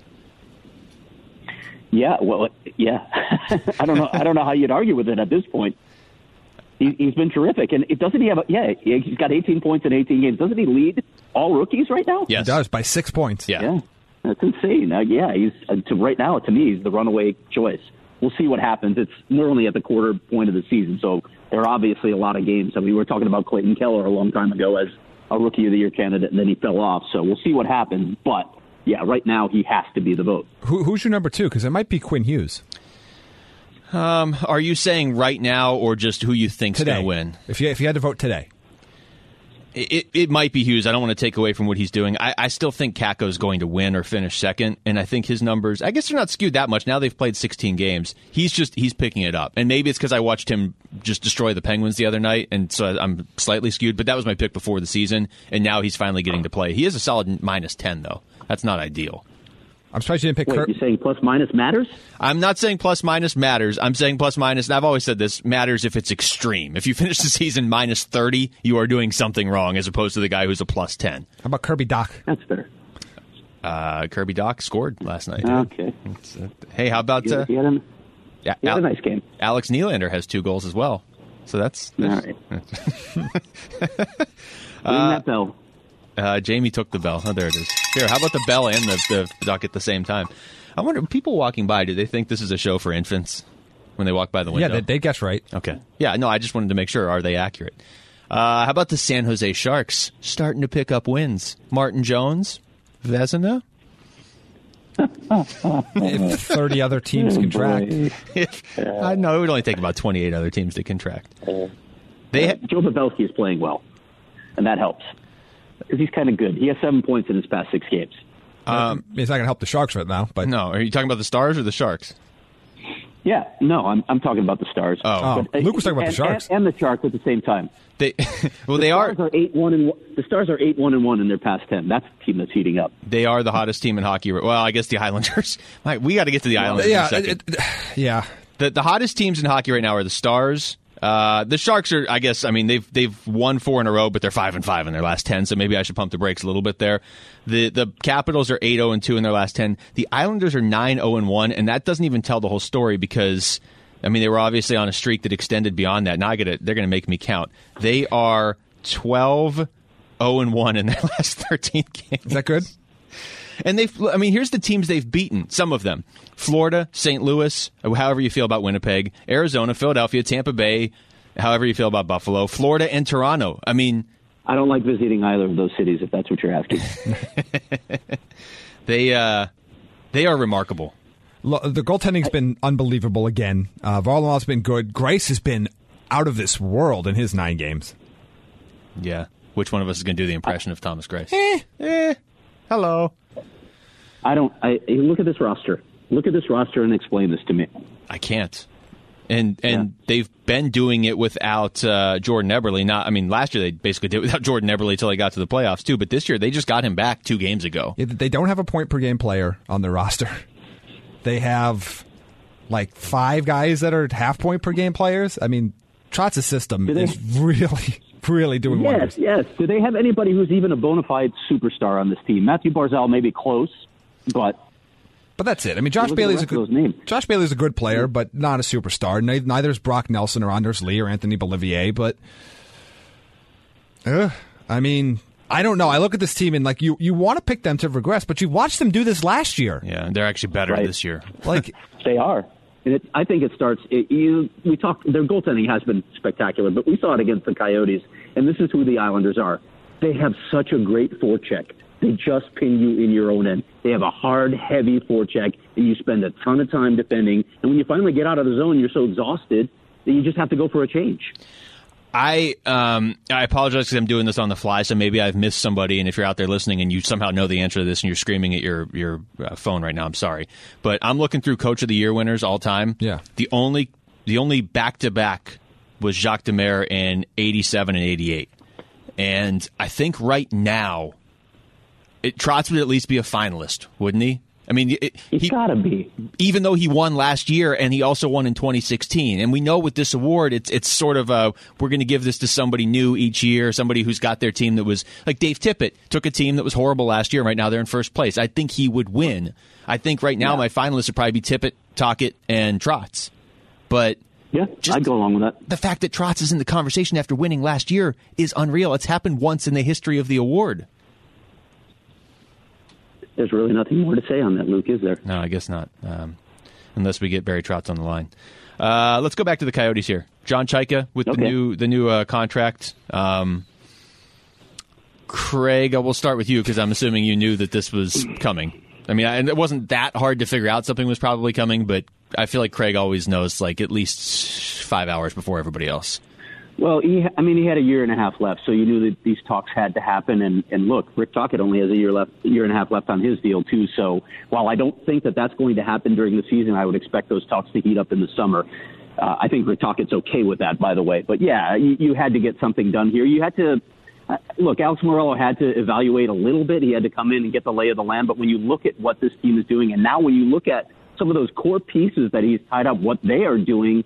Yeah, well, yeah. I don't know. I don't know how you'd argue with it at this point. He, he's been terrific, and it doesn't he have? A, yeah, he's got eighteen points in eighteen games. Doesn't he lead all rookies right now? Yes, he does by six points. Yeah, yeah, that's insane. Uh, yeah, he's uh, to right now to me he's the runaway choice. We'll see what happens. It's we're only at the quarter point of the season, so there are obviously a lot of games. I mean, we were talking about Clayton Keller a long time ago as a Rookie of the Year candidate, and then he fell off. So we'll see what happens, but. Yeah, right now he has to be the vote. Who, who's your number two? Because it might be Quinn Hughes. Um, are you saying right now, or just who you think's going to win? If you if you had to vote today, it, it it might be Hughes. I don't want to take away from what he's doing. I, I still think Kakko's going to win or finish second, and I think his numbers. I guess they're not skewed that much now. They've played sixteen games. He's just he's picking it up, and maybe it's because I watched him just destroy the Penguins the other night, and so I'm slightly skewed. But that was my pick before the season, and now he's finally getting to play. He is a solid minus ten though. That's not ideal. I'm surprised you didn't pick Wait, Kirk. you're saying plus minus matters? I'm not saying plus minus matters. I'm saying plus minus, and I've always said this, matters if it's extreme. If you finish the season minus thirty, you are doing something wrong as opposed to the guy who's a plus ten. How about Kirby Doc? That's fair. Uh, Kirby Doc scored last night. Okay. Uh, hey, how about... Uh, He had, a, yeah, he had Al- a nice game. Alex Nylander has two goals as well. So that's... that's All right. Ring that bell. Uh, Jamie took the bell. Oh, there it is. Here, how about the bell and the, the duck at the same time? I wonder, people walking by, do they think this is a show for infants when they walk by the window? Yeah, they, they guess right. Okay. Yeah, no, I just wanted to make sure. Are they accurate? Uh, how about the San Jose Sharks starting to pick up wins? Martin Jones? Vezina? If thirty other teams contract. I know, it would only take about twenty-eight other teams to contract. They ha- Joe Pavelski is playing well, and that helps. Because he's kind of good. He has seven points in his past six games. Um, it's not going to help the Sharks right now. But No, are you talking about the Stars or the Sharks? Yeah, no, I'm I'm talking about the Stars. Oh. Oh, Luke was talking about and, the Sharks. And, and the Sharks at the same time. They well, The they Stars are are eight one and one. The Stars are eight one and one in their past ten. That's the team that's heating up. they are the hottest team in hockey. Well, I guess the Islanders. Mike, we got to get to the Islanders in yeah, a second. it- it- yeah. The the hottest teams in hockey right now are the Stars. Uh, the Sharks are, I guess, I mean, they've they've won four in a row, but they're five and five in their last ten. So maybe I should pump the brakes a little bit there. The the Capitals are eight zero and two in their last ten. The Islanders are nine zero and one, and that doesn't even tell the whole story because, I mean, they were obviously on a streak that extended beyond that. Now I gotta, they're going to make me count. They are twelve zero and one in their last thirteen games. Is that good? And they've, I mean, here's the teams they've beaten. Some of them: Florida, Saint Louis, however you feel about Winnipeg, Arizona, Philadelphia, Tampa Bay, however you feel about Buffalo, Florida, and Toronto. I mean, I don't like visiting either of those cities, if that's what you're asking. they uh, they are remarkable. Lo- The goaltending's been unbelievable again. Uh, Varlamov's been good. Grace has been out of this world in his nine games. Yeah. Which one of us is going to do the impression of Thomas Grace? Eh, eh. Hello. I don't. I look at this roster. Look at this roster and explain this to me. I can't. And and Yeah. they've been doing it without uh, Jordan Eberle. Not, I mean, last year they basically did it without Jordan Eberle until they got to the playoffs too. But this year they just got him back two games ago. Yeah, They don't have a point per game player on their roster. They have like five guys that are half point per game players. I mean, Trotz's system they- is really, really doing Yes, wonders. yes. Do they have anybody who's even a bona fide superstar on this team? Matthew Barzal may be close, but But that's it. I mean, Josh Look at the Bailey's a rest of good those names. Josh Bailey's a good player, but not a superstar. Nei- Neither is Brock Nelson or Anders Lee or Anthony Bolivier. But uh, I mean, I don't know. I look at this team and like you, you want to pick them to regress, but you watched them do this last year. Yeah, they're actually better Right. this year. Like, they are. And it, I think it starts. It, you, we talked. Their goaltending has been spectacular, but we saw it against the Coyotes, and this is who the Islanders are. They have such a great forecheck. They just pin you in your own end. They have a hard, heavy forecheck, and you spend a ton of time defending. And when you finally get out of the zone, you're so exhausted that you just have to go for a change. I um I apologize because I'm doing this on the fly, so maybe I've missed somebody. And if you're out there listening and you somehow know the answer to this and you're screaming at your your uh, phone right now, I'm sorry. But I'm looking through Coach of the Year winners all time. Yeah. The only the only back to back was Jacques Demers in eighty-seven and eighty-eight, and I think right now, it Trotz would at least be a finalist, wouldn't he? I mean, it, He's he got to be. even though he won last year and he also won in twenty sixteen. And we know with this award, it's it's sort of a, we're going to give this to somebody new each year, somebody who's got their team that was, like Dave Tippett took a team that was horrible last year, and right now they're in first place. I think he would win. I think right now Yeah. my finalists would probably be Tippett, Tocchet, and Trotz. But Yeah, Just- I'd go along with that. the fact that Trotz is in the conversation after winning last year is unreal. It's happened once in the history of the award. There's really nothing more to say on that, Luke, is there? No, I guess not. Um, unless we get Barry Trotz on the line. Uh, let's go back to the Coyotes here. John Chaika with the Okay. new the new uh, contract. Um, Craig, I will start with you because I'm assuming you knew that this was coming. I mean, I, and it wasn't that hard to figure out something was probably coming, but I feel like Craig always knows like at least five hours before everybody else. Well, he, I mean, he had a year and a half left, so you knew that these talks had to happen. And, and look, Rick Tocchet only has a year left, a year and a half left on his deal too. So while I don't think that that's going to happen during the season, I would expect those talks to heat up in the summer. Uh, I think Rick Tocchet's okay with that, by the way. But yeah, you, you had to get something done here. You had to uh, look, Alex Morello had to evaluate a little bit. He had to come in and get the lay of the land. But when you look at what this team is doing, and now when you look at some of those core pieces that he's tied up, what they are doing,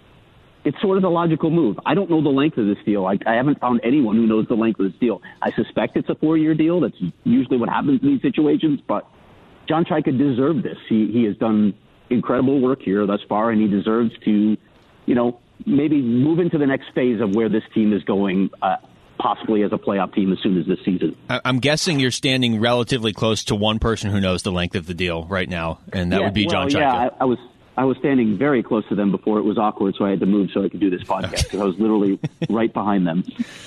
it's sort of the logical move. I don't know the length of this deal. I, I haven't found anyone who knows the length of this deal. I suspect it's a four-year deal. That's usually what happens in these situations. But John Chayka deserved this. He he has done incredible work here thus far, and he deserves to, you know, maybe move into the next phase of where this team is going, uh, possibly as a playoff team as soon as this season. I'm guessing you're standing relatively close to one person who knows the length of the deal right now, and that yeah, would be well, John Chayka. Yeah, I, I was I was standing very close to them before it was awkward, so I had to move so I could do this podcast because I was literally right behind them.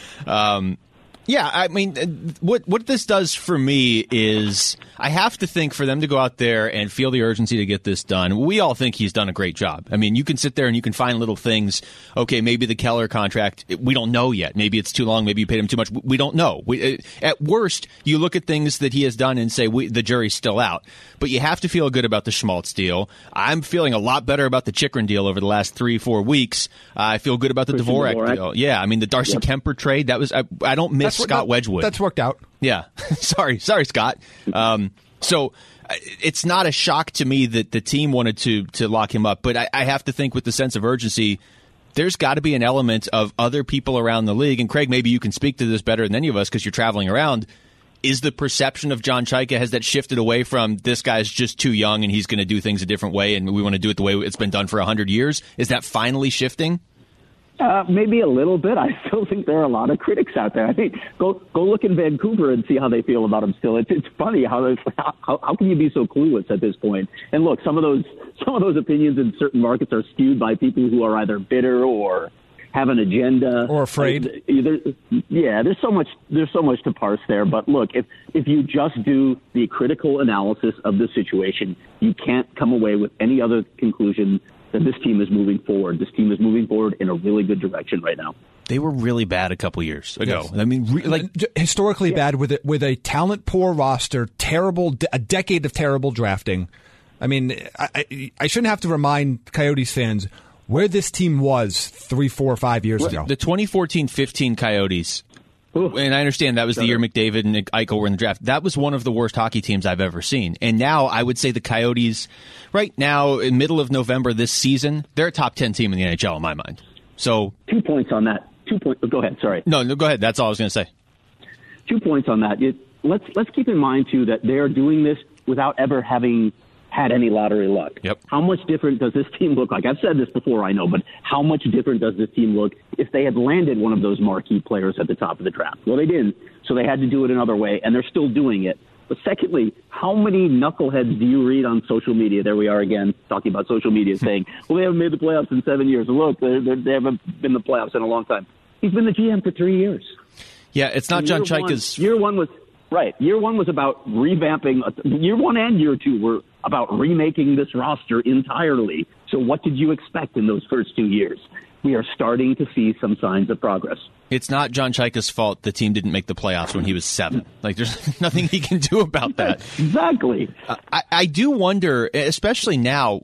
Um, yeah, I mean, what what this does for me is I have to think for them to go out there and feel the urgency to get this done. We all think he's done a great job. I mean, you can sit there and you can find little things. Okay, maybe the Keller contract, we don't know yet. Maybe it's too long. Maybe you paid him too much. We don't know. We, at worst, you look at things that he has done and say we, the jury's still out. But you have to feel good about the Schmaltz deal. I'm feeling a lot better about the Chychrun deal over the last three, four weeks. Uh, I feel good about the Dvorak, Dvorak deal. Yeah, I mean, the Darcy yep. Kemper trade, that was I, I don't miss That's Scott that, Wedgwood. That's worked out. Yeah. sorry. Sorry, Scott. Um, so it's not a shock to me that the team wanted to to lock him up, but I, I have to think with the sense of urgency, there's got to be an element of other people around the league. And Craig, maybe you can speak to this better than any of us because you're traveling around. Is the perception of John Chayka, has that shifted away from this guy's just too young and he's going to do things a different way and we want to do it the way it's been done for one hundred years? Is that finally shifting? Uh, maybe a little bit. I still think there are a lot of critics out there. I think go go look in Vancouver and see how they feel about him still. It's it's funny how how how can you be so clueless at this point? And look, some of those some of those opinions in certain markets are skewed by people who are either bitter or have an agenda or afraid. There, yeah, there's so much there's so much to parse there. But look, if if you just do the critical analysis of the situation, you can't come away with any other conclusion that this team is moving forward. This team is moving forward in a really good direction right now. They were really bad a couple years ago. Yes. I mean, re- like historically yeah. bad with it, with a talent poor roster, terrible, a decade of terrible drafting. I mean, I, I, I shouldn't have to remind Coyotes fans where this team was three, four, five years ago. The twenty fourteen fifteen Coyotes. Ooh. And I understand that was the year McDavid and Eichel were in the draft. That was one of the worst hockey teams I've ever seen. And now I would say the Coyotes, right now, in middle of November this season, they're a top ten team in the N H L in my mind. So two points on that. Two points. Go ahead. Sorry. No, no, go ahead. That's all I was going to say. Two points on that. It, let's let's keep in mind too that they are doing this without ever having had any lottery luck. Yep. How much different does this team look like? I've said this before, I know, but how much different does this team look if they had landed one of those marquee players at the top of the draft? Well, they didn't, so they had to do it another way, and they're still doing it. But secondly, how many knuckleheads do you read on social media? There we are again, talking about social media, saying, well, they haven't made the playoffs in seven years. Look, they're, they're, they haven't been in the playoffs in a long time. He's been the G M for three years. Yeah, it's not John Chayka's... Year one was... Right. Year one was about revamping. Year one and year two were about remaking this roster entirely. So what did you expect in those first two years? We are starting to see some signs of progress. It's not John Chayka's fault the team didn't make the playoffs when he was seven. Like, there's nothing he can do about that. Exactly. Uh, I, I do wonder, especially now,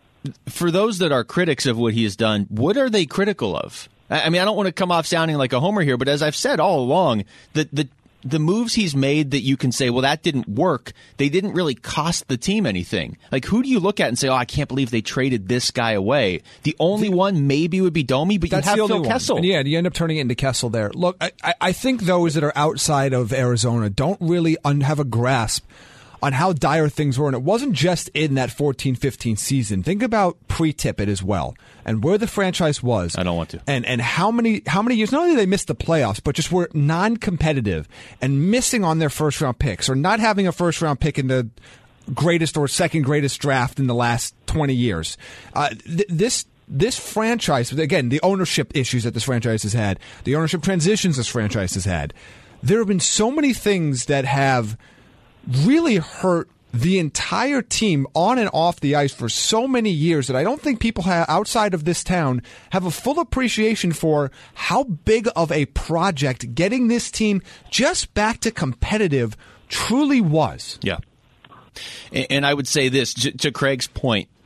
for those that are critics of what he has done, what are they critical of? I, I mean, I don't want to come off sounding like a homer here, but as I've said all along, the the The moves he's made that you can say, well, that didn't work, they didn't really cost the team anything. Like, who do you look at and say, oh, I can't believe they traded this guy away? The only the, one maybe would be Domi, but you have Phil one. Kessel. And yeah, you end up turning it into Kessel there. Look, I, I think those that are outside of Arizona don't really un- have a grasp on how dire things were. And it wasn't just in that fourteen fifteen season. Think about pre-Tippett as well and where the franchise was. I don't want to. And and how many how many years, not only did they miss the playoffs, but just were non-competitive and missing on their first-round picks or not having a first-round pick in the greatest or second greatest draft in the last twenty years. Uh, th- this This franchise, again, the ownership issues that this franchise has had, the ownership transitions this franchise has had, there have been so many things that have really hurt the entire team on and off the ice for so many years that I don't think people ha- outside of this town have a full appreciation for how big of a project getting this team just back to competitive truly was. Yeah. And, and I would say this, to Craig's point,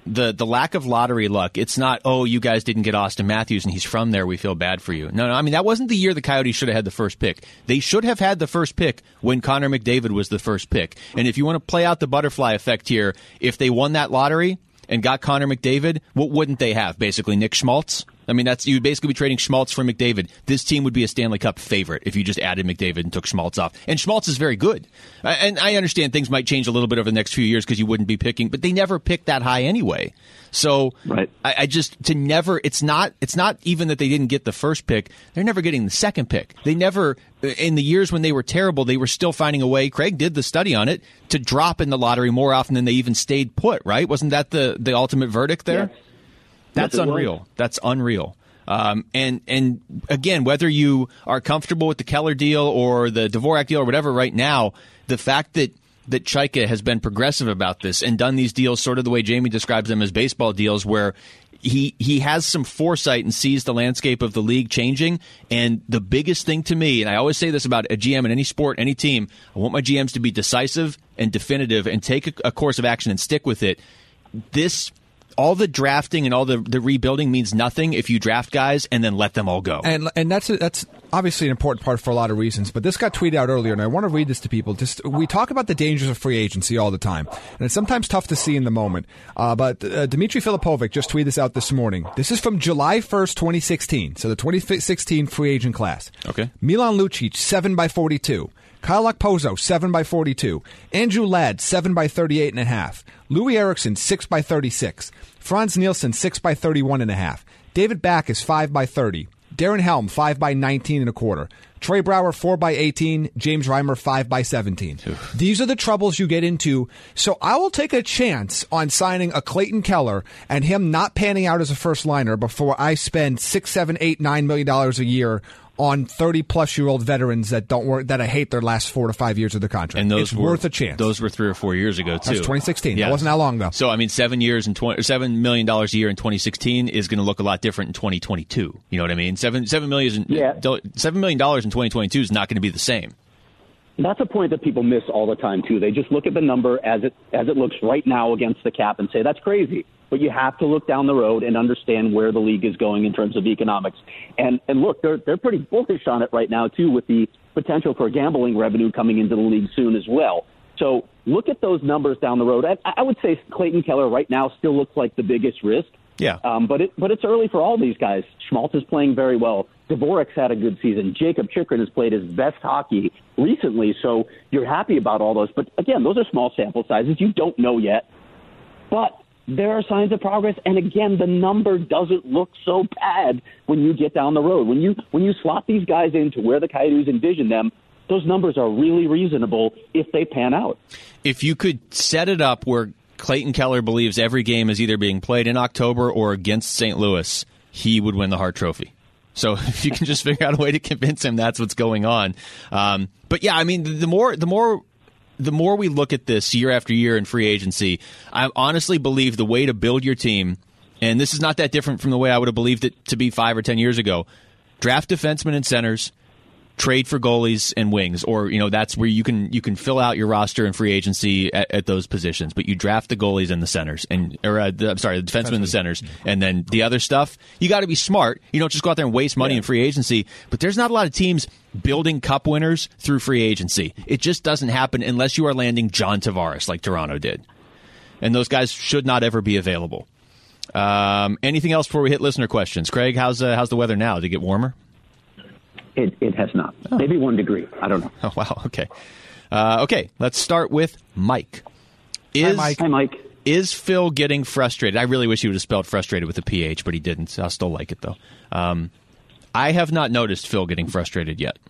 the the lack of lottery luck, it's not, oh, you guys didn't get Austin Matthews and he's from there, we feel bad for you. No, no, I mean, that wasn't the year the Coyotes should have had the first pick. They should have had the first pick when Connor McDavid was the first pick. And if you want to play out the butterfly effect here, if they won that lottery and got Connor McDavid, what wouldn't they have? Basically, Nick Schmaltz? I mean, that's you'd basically be trading Schmaltz for McDavid. This team would be a Stanley Cup favorite if you just added McDavid and took Schmaltz off. And Schmaltz is very good. And I understand things might change a little bit over the next few years because you wouldn't be picking, but they never picked that high anyway. So right. I, I just to never. It's not. It's not even that they didn't get the first pick. They're never getting the second pick. They never. In the years when they were terrible, they were still finding a way. Craig did the study on it to drop in the lottery more often than they even stayed put. Right? Wasn't that the the ultimate verdict there? Yes. That's yes, unreal. That's unreal. Um, and and again, whether you are comfortable with the Keller deal or the Dvorak deal or whatever right now, the fact that that Chaika has been progressive about this and done these deals sort of the way Jamie describes them as baseball deals, where he he has some foresight and sees the landscape of the league changing. And the biggest thing to me, and I always say this about a G M in any sport, any team, I want my G Ms to be decisive and definitive and take a, a course of action and stick with it. This all the drafting and all the, the rebuilding means nothing if you draft guys and then let them all go. And and that's a, that's obviously an important part for a lot of reasons. But this got tweeted out earlier, and I want to read this to people. Just we talk about the dangers of free agency all the time, and it's sometimes tough to see in the moment. Uh, but uh, Dmitry Filipovic just tweeted this out this morning. This is from July first, twenty sixteen. So the twenty sixteen free agent class. Okay. Milan Lucic, seven by forty-two. Kyle Okposo, seven by forty-two. Andrew Ladd, seven by thirty-eight and a half. Louis Eriksson, six by thirty-six. Franz Nielsen, six by thirty-one and a half. David Backes, five by thirty. Darren Helm, five by nineteen and a quarter. Trey Brower, four by eighteen. James Reimer, five by seventeen. Oof. These are the troubles you get into. So I will take a chance on signing a Clayton Keller and him not panning out as a first liner before I spend six, seven, eight, nine million dollars a year on thirty-plus-year-old veterans that don't work, that I hate their last four to five years of the contract. And those it's were, worth a chance. Those were three or four years ago, too. That's twenty sixteen. Yeah. That wasn't that long ago. So, I mean, seven years and twenty, seven million dollars a year in twenty sixteen is going to look a lot different in twenty twenty-two. You know what I mean? Seven seven million, yeah. seven million dollars in twenty twenty-two is not going to be the same. That's a point that people miss all the time, too. They just look at the number as it as it looks right now against the cap and say, that's crazy. But you have to look down the road and understand where the league is going in terms of economics. And and look, they're they're pretty bullish on it right now, too, with the potential for gambling revenue coming into the league soon as well. So look at those numbers down the road. I, I would say Clayton Keller right now still looks like the biggest risk. Yeah. Um, but it but it's early for all these guys. Schmaltz is playing very well. Dvorak's had a good season. Jacob Chychrun has played his best hockey recently, so you're happy about all those. But, again, those are small sample sizes. You don't know yet. But there are signs of progress, and, again, the number doesn't look so bad when you get down the road. When you when you slot these guys into where the Coyotes envision them, those numbers are really reasonable if they pan out. If you could set it up where Clayton Keller believes every game is either being played in October or against Saint Louis, he would win the Hart Trophy. So if you can just figure out a way to convince him that's what's going on. Um, but, yeah, I mean, the more the more – The more we look at this year after year in free agency, I honestly believe the way to build your team, and this is not that different from the way I would have believed it to be five or ten years ago, draft defensemen and centers, trade for goalies and wings, or you know that's where you can you can fill out your roster in free agency at, at those positions. But you draft the goalies and the centers, and or uh, the, I'm sorry, the defensemen and the centers, and then the other stuff. You got to be smart. You don't just go out there and waste money yeah. in free agency. But there's not a lot of teams building cup winners through free agency. It just doesn't happen unless you are landing John Tavares like Toronto did, and those guys should not ever be available. Um, anything else before we hit listener questions? Craig, how's uh, how's the weather now? Did it get warmer? It, it has not. Oh. Maybe one degree. I don't know. Oh, wow. Okay. Uh, okay. Let's start with Mike. Is, Hi, Mike. Hi, Mike. Is Phil getting frustrated? I really wish he would have spelled frustrated with a P H, but he didn't. I'll still like it, though. Um, I have not noticed Phil getting frustrated yet.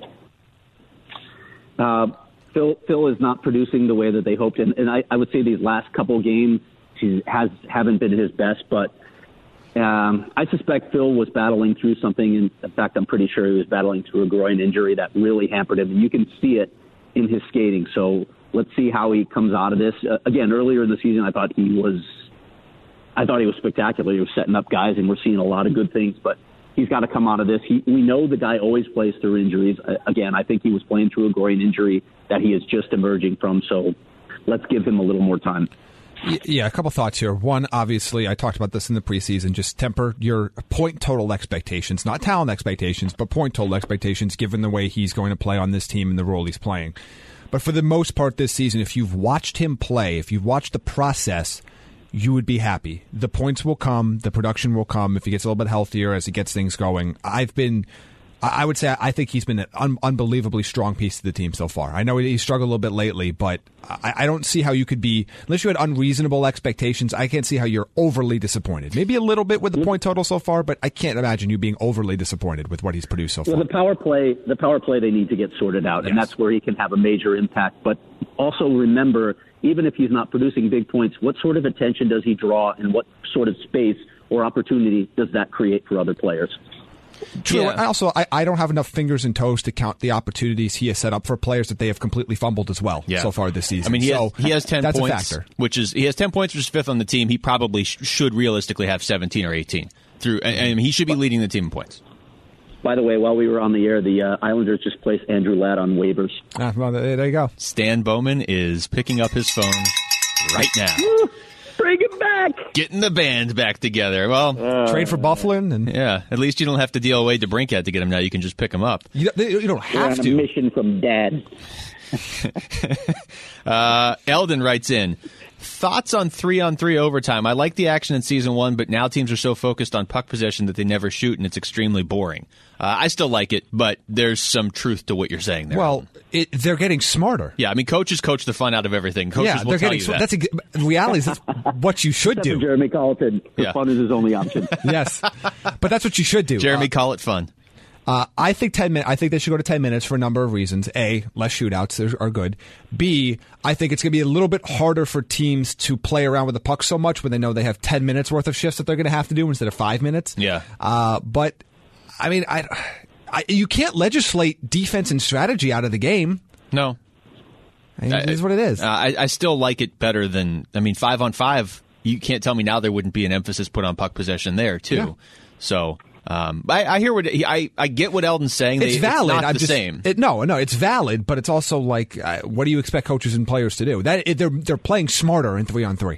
Uh, Phil Phil is not producing the way that they hoped. And, and I, I would say these last couple games he has, haven't been his best, but Um, I suspect Phil was battling through something. In fact, I'm pretty sure he was battling through a groin injury that really hampered him. And you can see it in his skating. So let's see how he comes out of this. Uh, again, earlier in the season, I thought he was, I thought he was spectacular. He was setting up guys, and we're seeing a lot of good things. But he's got to come out of this. He, we know the guy always plays through injuries. Uh, again, I think he was playing through a groin injury that he is just emerging from. So let's give him a little more time. Yeah, a couple thoughts here. One, obviously, I talked about this in the preseason. Just temper your point total expectations, not talent expectations, but point total expectations, given the way he's going to play on this team and the role he's playing. But for the most part this season, if you've watched him play, if you've watched the process, you would be happy. The points will come, the production will come if he gets a little bit healthier as he gets things going. I've been... I would say I think he's been an un- unbelievably strong piece to the team so far. I know he struggled a little bit lately, but I-, I don't see how you could be, unless you had unreasonable expectations, I can't see how you're overly disappointed. Maybe a little bit with the point total so far, but I can't imagine you being overly disappointed with what he's produced so far. Well, the power play, the power play they need to get sorted out, yes. And that's where he can have a major impact. But also remember, even if he's not producing big points, what sort of attention does he draw and what sort of space or opportunity does that create for other players? True. Yeah. I also, I, I don't have enough fingers and toes to count the opportunities he has set up for players that they have completely fumbled as well yeah. so far this season. I mean, he, so has, he has ten that's points, a factor. which is he has ten points, which is fifth on the team. He probably sh- should realistically have seventeen or eighteen. Through, and, and he should be leading the team in points. By the way, while we were on the air, the uh, Islanders just placed Andrew Ladd on waivers. Ah, well, there you go. Stan Bowman is picking up his phone right now. Bring him back! Getting the band back together. Well, uh, trade for Bufflin, and yeah, at least you don't have to deal away to DeBrincat to get him now. You can just pick him up. You, you don't have We're on to. A mission from Dad. uh, Eldon writes in, thoughts on three-on-three overtime. I like the action in season one, but now teams are so focused on puck possession that they never shoot, and it's extremely boring. Uh, I still like it, but there's some truth to what you're saying there. Well, it, they're getting smarter. Yeah, I mean, coaches coach the fun out of everything. Coaches yeah, will they're tell getting you sm- that. That's a, in reality, that's what you should Except do. for Jeremy Colleton. The Yeah. fun is his only option. Yes, but that's what you should do. Jeremy, Uh, call it fun. Uh, I think ten minutes. I think they should go to ten minutes for a number of reasons. A, less shootouts are good. B, I think it's going to be a little bit harder for teams to play around with the puck so much when they know they have ten minutes worth of shifts that they're going to have to do instead of five minutes. Yeah. Uh, but I mean, I, I, you can't legislate defense and strategy out of the game. No. I mean, it is what it is. Uh, I, I still like it better than, I mean, five on five. You can't tell me now there wouldn't be an emphasis put on puck possession there too. Yeah. So. Um, I, I hear what he, I I get what Eldon's saying. It's they, valid. It's not I'm the just, same. It, no, no, it's valid, but it's also like, uh, what do you expect coaches and players to do? That it, they're they're playing smarter in three on three.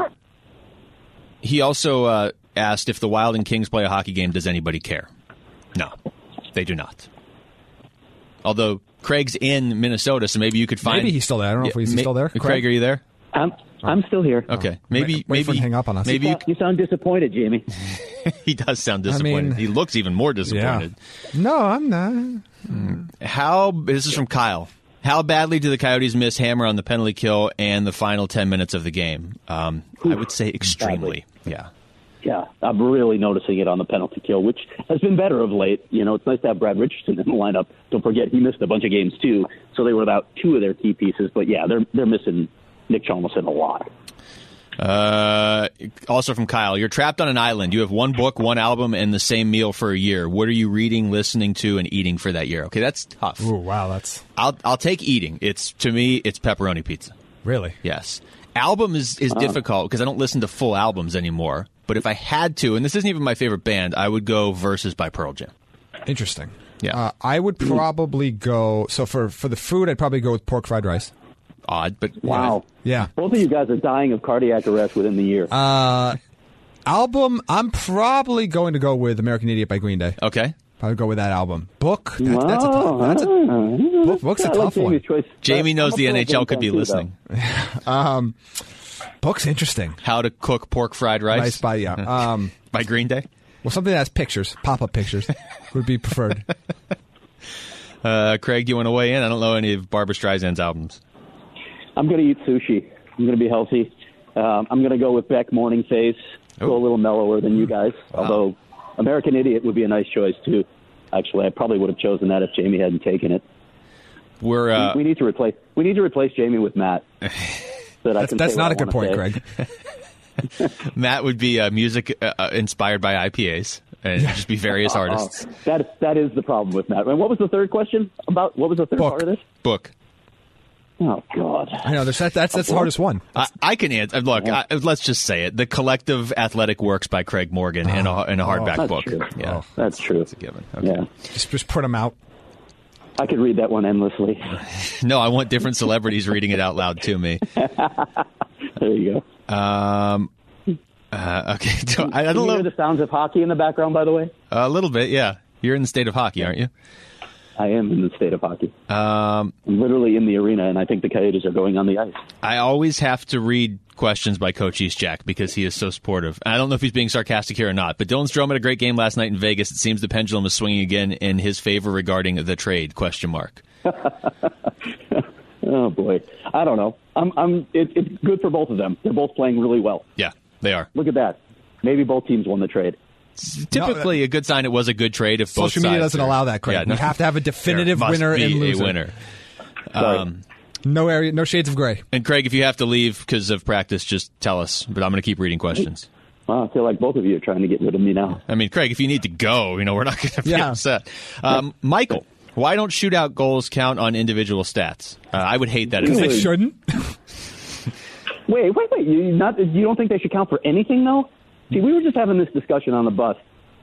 He also uh, asked if the Wild and Kings play a hockey game. Does anybody care? No, they do not. Although Craig's in Minnesota, so maybe you could find. Maybe he's still there. I don't know yeah, if he's ma- still there. Craig, Craig, are you there? I'm, I'm still here. Okay, maybe Wait- wait maybe for him to hang up on us. Maybe you, You sound disappointed, Jamie. he does sound I disappointed. mean- he looks even more Yeah. disappointed. No, I'm not. How this is from Kyle. How badly do the Coyotes miss Hammer on the penalty kill and the final ten minutes of the game? Um, I would say extremely. Yeah. Yeah, I'm really noticing it on the penalty kill, which has been better of late. You know, it's nice to have Brad Richardson in the lineup. Don't forget, he missed a bunch of games, too, so they were without two of their key pieces. But, yeah, they're they're missing Nick Chalmers a lot. Uh, also from Kyle, you're trapped on an island. You have one book, one album, and the same meal for a year. What are you reading, listening to, and eating for that year? Okay, that's tough. Ooh, wow, that's I'll I'll take eating. It's to me, it's pepperoni pizza. really. Yes. Album is, is difficult because I don't listen to full albums anymore. But if I had to, and this isn't even my favorite band, I would go Versus by Pearl Jam. Interesting. Yeah. Uh, I would probably go, so for, for the food, I'd probably go with pork fried rice. Odd, but Wow. Yeah. Both of you guys are dying of cardiac arrest within the year. Uh, album, I'm probably going to go with American Idiot by Green Day. Okay. Probably go with that album. Book, that, that's a tough, that's a, Wow. book, book's a I like tough one. Jamie's choice. Jamie I'm knows a the Pearl N H L Jam could be fan, too, listening. Um, book's interesting. How to cook pork fried rice Rice by, yeah. Um, by Green Day. well, something that has pictures, pop-up pictures, would be preferred. Uh, Craig, do you want to weigh in? I don't know any of Barbra Streisand's albums. I'm going to eat sushi. I'm going to be healthy. Um, I'm going to go with Beck Morning Face. Go a little mellower than you guys. Wow. Although American Idiot would be a nice choice too. Actually, I probably would have chosen that if Jamie hadn't taken it. We're uh, we, we need to replace. We need to replace Jamie with Matt. So that I That's, can that's say not what a good I point, wanna say. Greg. Matt would be uh, music uh, inspired by I P As and just be various artists. Oh, that that is the problem with Matt. And what was the third question about? What was the third Book. part of this? Book. Oh God. I know, there's, that, that's, that's the hardest one. I, I can answer. Look, I, let's just say it: the Collective Athletic Works by Craig Morgan in a in a hardback That's book. true. Yeah, That's true. it's a given. Okay. Yeah, Just, just print them out. I could read that one endlessly. No, I want different celebrities reading it out loud to me. There you go. Um, uh, okay. So, I, I don't Can you know. hear the sounds of hockey in the background, by the way? A little bit, yeah. You're in the state of hockey, aren't you? I am in the state of hockey. Um, I'm literally in the arena, and I think the Coyotes are going on the ice. I always have to read questions by Coach Eastjack because he is so supportive. I don't know if he's being sarcastic here or not, but Dylan Strome had a great game last night in Vegas. It seems the pendulum is swinging again in his favor regarding the trade, question mark. Oh, boy. I don't know. I'm, I'm, it, it's good for both of them. They're both playing really well. Yeah, they are. Look at that. Maybe both teams won the trade. It's typically no, a good sign it was a good trade if both social media sides doesn't are, allow that, Craig. Yeah, no, you have to have a definitive winner and loser. A winner. Um, no area, no shades of gray. And Craig, if you have to leave because of practice, just tell us. But I'm going to keep reading questions. Well, I feel like both of you are trying to get rid of me now. I mean, Craig, if you need to go, you know, we're not going to be yeah. upset. Um, Michael, why don't shootout goals count on individual stats? Uh, I would hate that. Because they shouldn't. wait, wait, wait. You not? You don't think they should count for anything, though? See, we were just having this discussion on the bus.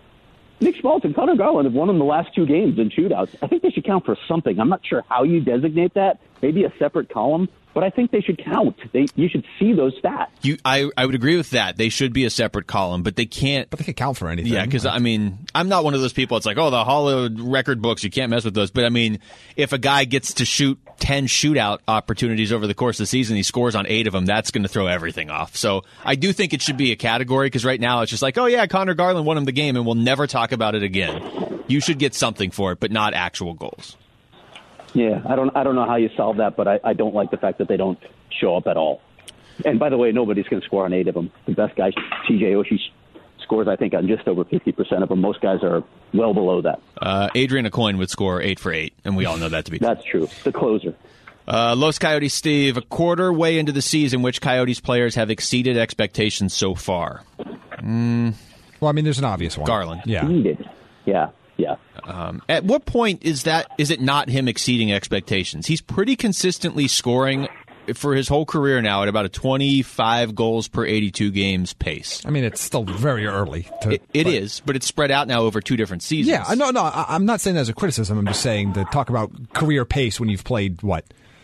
Nick Schmaltz and Connor Garland have won in the last two games in shootouts. I think they should count for something. I'm not sure how you designate that. Maybe a separate column. But I think they should count. They, you should see those stats. You, I, I would agree with that. They should be a separate column, but they can't. But they can count for anything. Yeah, because I mean, I'm not one of those people. It's like, oh, the Hall of record books. You can't mess with those. But I mean, if a guy gets to shoot ten shootout opportunities over the course of the season, he scores on eight of them. That's going to throw everything off. So I do think it should be a category because right now it's just like, oh yeah, Connor Garland won him the game, and we'll never talk about it again. You should get something for it, but not actual goals. Yeah, I don't I don't know how you solve that, but I, I don't like the fact that they don't show up at all. And by the way, nobody's going to score on eight of them. The best guy, T J Oshie, scores, I think, on just over fifty percent of them. Most guys are well below that. Uh, Adrian Aucoin would score eight for eight, and we all know that to be true. That's true. The closer. Uh, Los Coyotes Steve, a quarter way into the season, which Coyotes players have exceeded expectations so far? Mm. Well, I mean, there's an obvious one. Garland. Yeah. Exceeded. Yeah. Yeah. Um, at what point is that? Is it not him exceeding expectations? He's pretty consistently scoring for his whole career now at about a twenty-five goals per eighty-two games pace. I mean, it's still very early. To, it it but, is, but it's spread out now over two different seasons. Yeah, no, no, I, I'm not saying that as a criticism. I'm just saying to talk about career pace when you've played what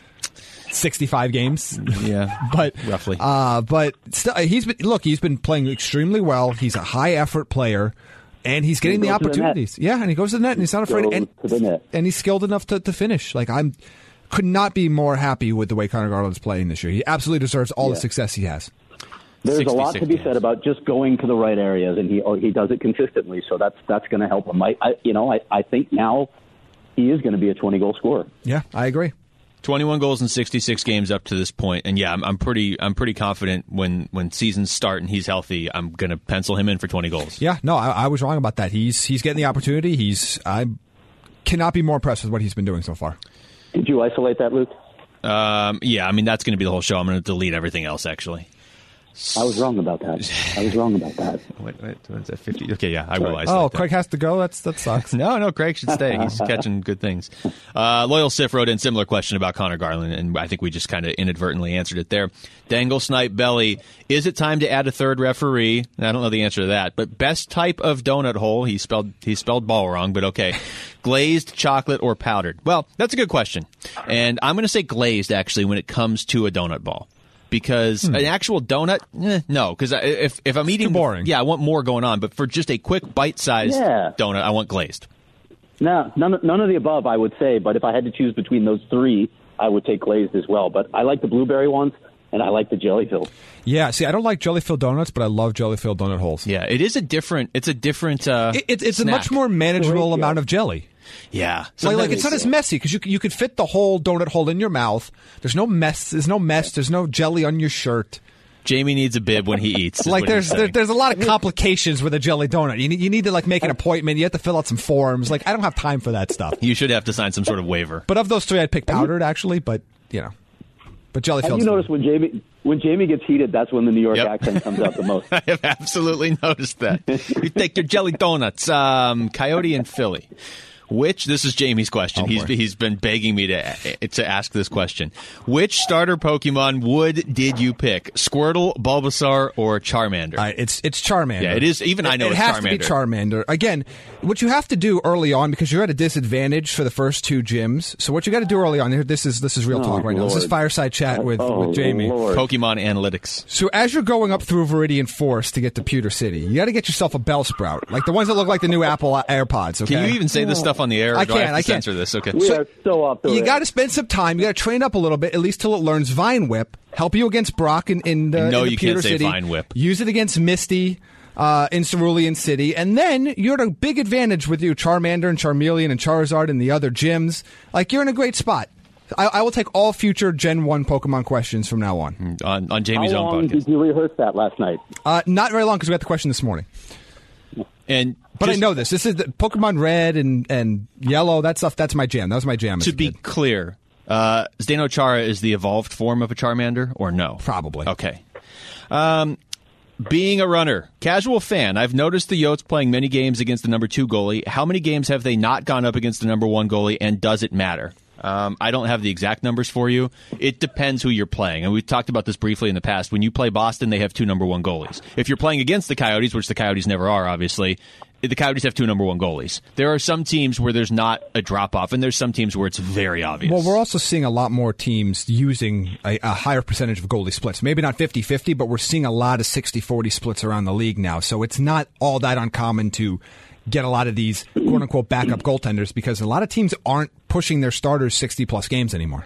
sixty-five games. Yeah, but roughly. Uh, but still, he's been look. He's been playing extremely well. He's a high effort player. And he's getting he the opportunities. The yeah, and he goes to the net, and he's not afraid. And, to the net. and he's skilled enough to, to finish. Like I'm, could not be more happy with the way Connor Garland's playing this year. He absolutely deserves all yeah. the success he has. There's a lot to be games. said about just going to the right areas, and he oh, he does it consistently. So that's that's going to help him. I, I you know I, I think now he is going to be a twenty goal scorer. Yeah, I agree. twenty-one goals in sixty-six games up to this point, and yeah, I'm, I'm pretty, I'm pretty confident when, when seasons start and he's healthy, I'm going to pencil him in for twenty goals. Yeah, no, I, I was wrong about that. He's he's getting the opportunity. He's I cannot be more impressed with what he's been doing so far. Did you isolate that, Luke? Um, yeah, I mean that's going to be the whole show. I'm going to delete everything else actually. I was wrong about that. I was wrong about that. What, what, what's that, fifty? Okay, yeah, I will isolate Oh, that. Craig has to go? That's That sucks. no, no, Craig should stay. He's catching good things. Uh, Loyal Sif wrote in similar question about Connor Garland, and I think we just kind of inadvertently answered it there. Dangle Snipe Belly, is it time to add a third referee? I don't know the answer to that, but best type of donut hole, he spelled he spelled ball wrong, but okay. Glazed, chocolate, or powdered? Well, that's a good question. And I'm going to say glazed, actually, when it comes to a donut ball. Because hmm. an actual donut, eh, no. Because if if I'm eating, too boring. Yeah, I want more going on. But for just a quick bite-sized yeah. donut, I want glazed. No, none, none of the above, I would say. But if I had to choose between those three, I would take glazed as well. But I like the blueberry ones, and I like the jelly-filled. Yeah, see, I don't like jelly-filled donuts, but I love jelly-filled donut holes. Yeah, it is a different. It's a different. Uh, it, it, it's snack. a much more manageable Great, amount yeah. of jelly. Yeah, like, like it's not as messy because you you could fit the whole donut hole in your mouth. There's no mess. There's no mess. There's no jelly on your shirt. Jamie needs a bib when he eats. Like there's there, there's a lot of complications with a jelly donut. You need you need to like make an appointment. You have to fill out some forms. Like I don't have time for that stuff. You should have to sign some sort of waiver. But of those three, I'd pick powdered actually. But you know, but jelly filled. Have you noticed when Jamie when Jamie gets heated, that's when the New York yep. accent comes out the most. I have absolutely noticed that. You take your jelly donuts, um, Coyote and Philly. Which, this is Jamie's question. Oh, he's boy. he's been begging me to to ask this question. Which starter Pokemon would did you pick? Squirtle, Bulbasaur, or Charmander? Uh, it's it's Charmander. Yeah, it is. Even I know it it's has Charmander. to be Charmander. Again, what you have to do early on, because you're at a disadvantage for the first two gyms. So what you got to do early on here, this is this is real Oh, talk right now. This is Lord. fireside chat with, Oh, with Jamie. Lord. Pokemon Analytics. So as you're going up through Viridian Forest to get to Pewter City, you got to get yourself a Bellsprout, like the ones that look like the new Apple AirPods. Okay? Can you even say this stuff on the air? Or I do I can't, have to I can't. censor this. Okay. We So, are so off the You rails. got to spend some time. You got to train up a little bit, at least till it learns Vine Whip. Help you against Brock in, in the, No, in the you can't Pewter say City. Vine Whip. Use it against Misty uh, in Cerulean City, and then you're at a big advantage with you Charmander and Charmeleon and Charizard and the other gyms. Like, you're in a great spot. I, I will take all future Gen one Pokemon questions from now on. On, on Jamie's How own long podcast. did you rehearse that last night? Uh, not very long because we got the question this morning. And But just I know this. This is the Pokemon Red and, and Yellow. That stuff, that's my jam. That was my jam. as to a be kid. clear, uh, Zdenochara is the evolved form of a Charmander, or no? Probably. Okay. Um, being a runner, casual fan, I've noticed the Yotes playing many games against the number two goalie. How many games have they not gone up against the number one goalie, and does it matter? Um, I don't have the exact numbers for you. It depends who you're playing. And we've talked about this briefly in the past. When you play Boston, they have two number one goalies. If you're playing against the Coyotes, which the Coyotes never are, obviously, the Coyotes have two number one goalies. There are some teams where there's not a drop-off, and there's some teams where it's very obvious. Well, we're also seeing a lot more teams using a, a higher percentage of goalie splits. Maybe not fifty-fifty, but we're seeing a lot of sixty forty splits around the league now. So it's not all that uncommon to get a lot of these quote-unquote backup goaltenders because a lot of teams aren't pushing their starters sixty-plus games anymore.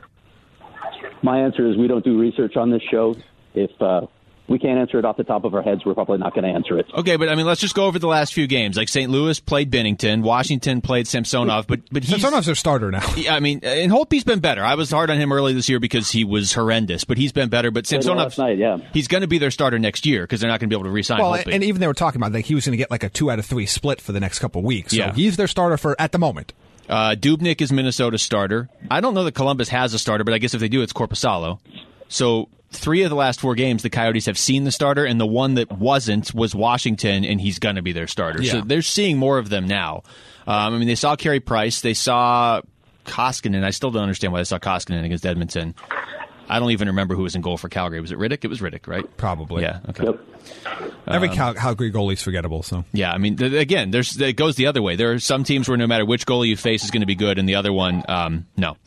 My answer is we don't do research on this show. If uh, we can't answer it off the top of our heads, we're probably not going to answer it. Okay, but I mean, let's just go over the last few games. Like Saint Louis played Binnington, Washington played Samsonov, but but he's Samsonov's their starter now. Yeah, I mean, and Holtby's been better. I was hard on him early this year because he was horrendous, but he's been better. But Played well Samsonov, last night, yeah. he's going to be their starter next year because they're not going to be able to re-sign Well, Holtby. and even they were talking about like he was going to get like a two out of three split for the next couple of weeks. So Yeah. he's their starter for at the moment. Uh, Dubnyk is Minnesota's starter. I don't know that Columbus has a starter, but I guess if they do, it's Korpisalo. So three of the last four games, the Coyotes have seen the starter, and the one that wasn't was Washington, and he's going to be their starter. Yeah. So they're seeing more of them now. Um, I mean, they saw Carey Price. They saw Koskinen. I still don't understand why they saw Koskinen against Edmonton. I don't even remember who was in goal for Calgary. Was it Riddick? It was Riddick, right? Probably. Yeah, okay. Yep. Every Cal- Calgary goalie's forgettable. So Yeah, I mean, th- again, there's it goes the other way. There are some teams where no matter which goalie you face is going to be good, and the other one, um, no.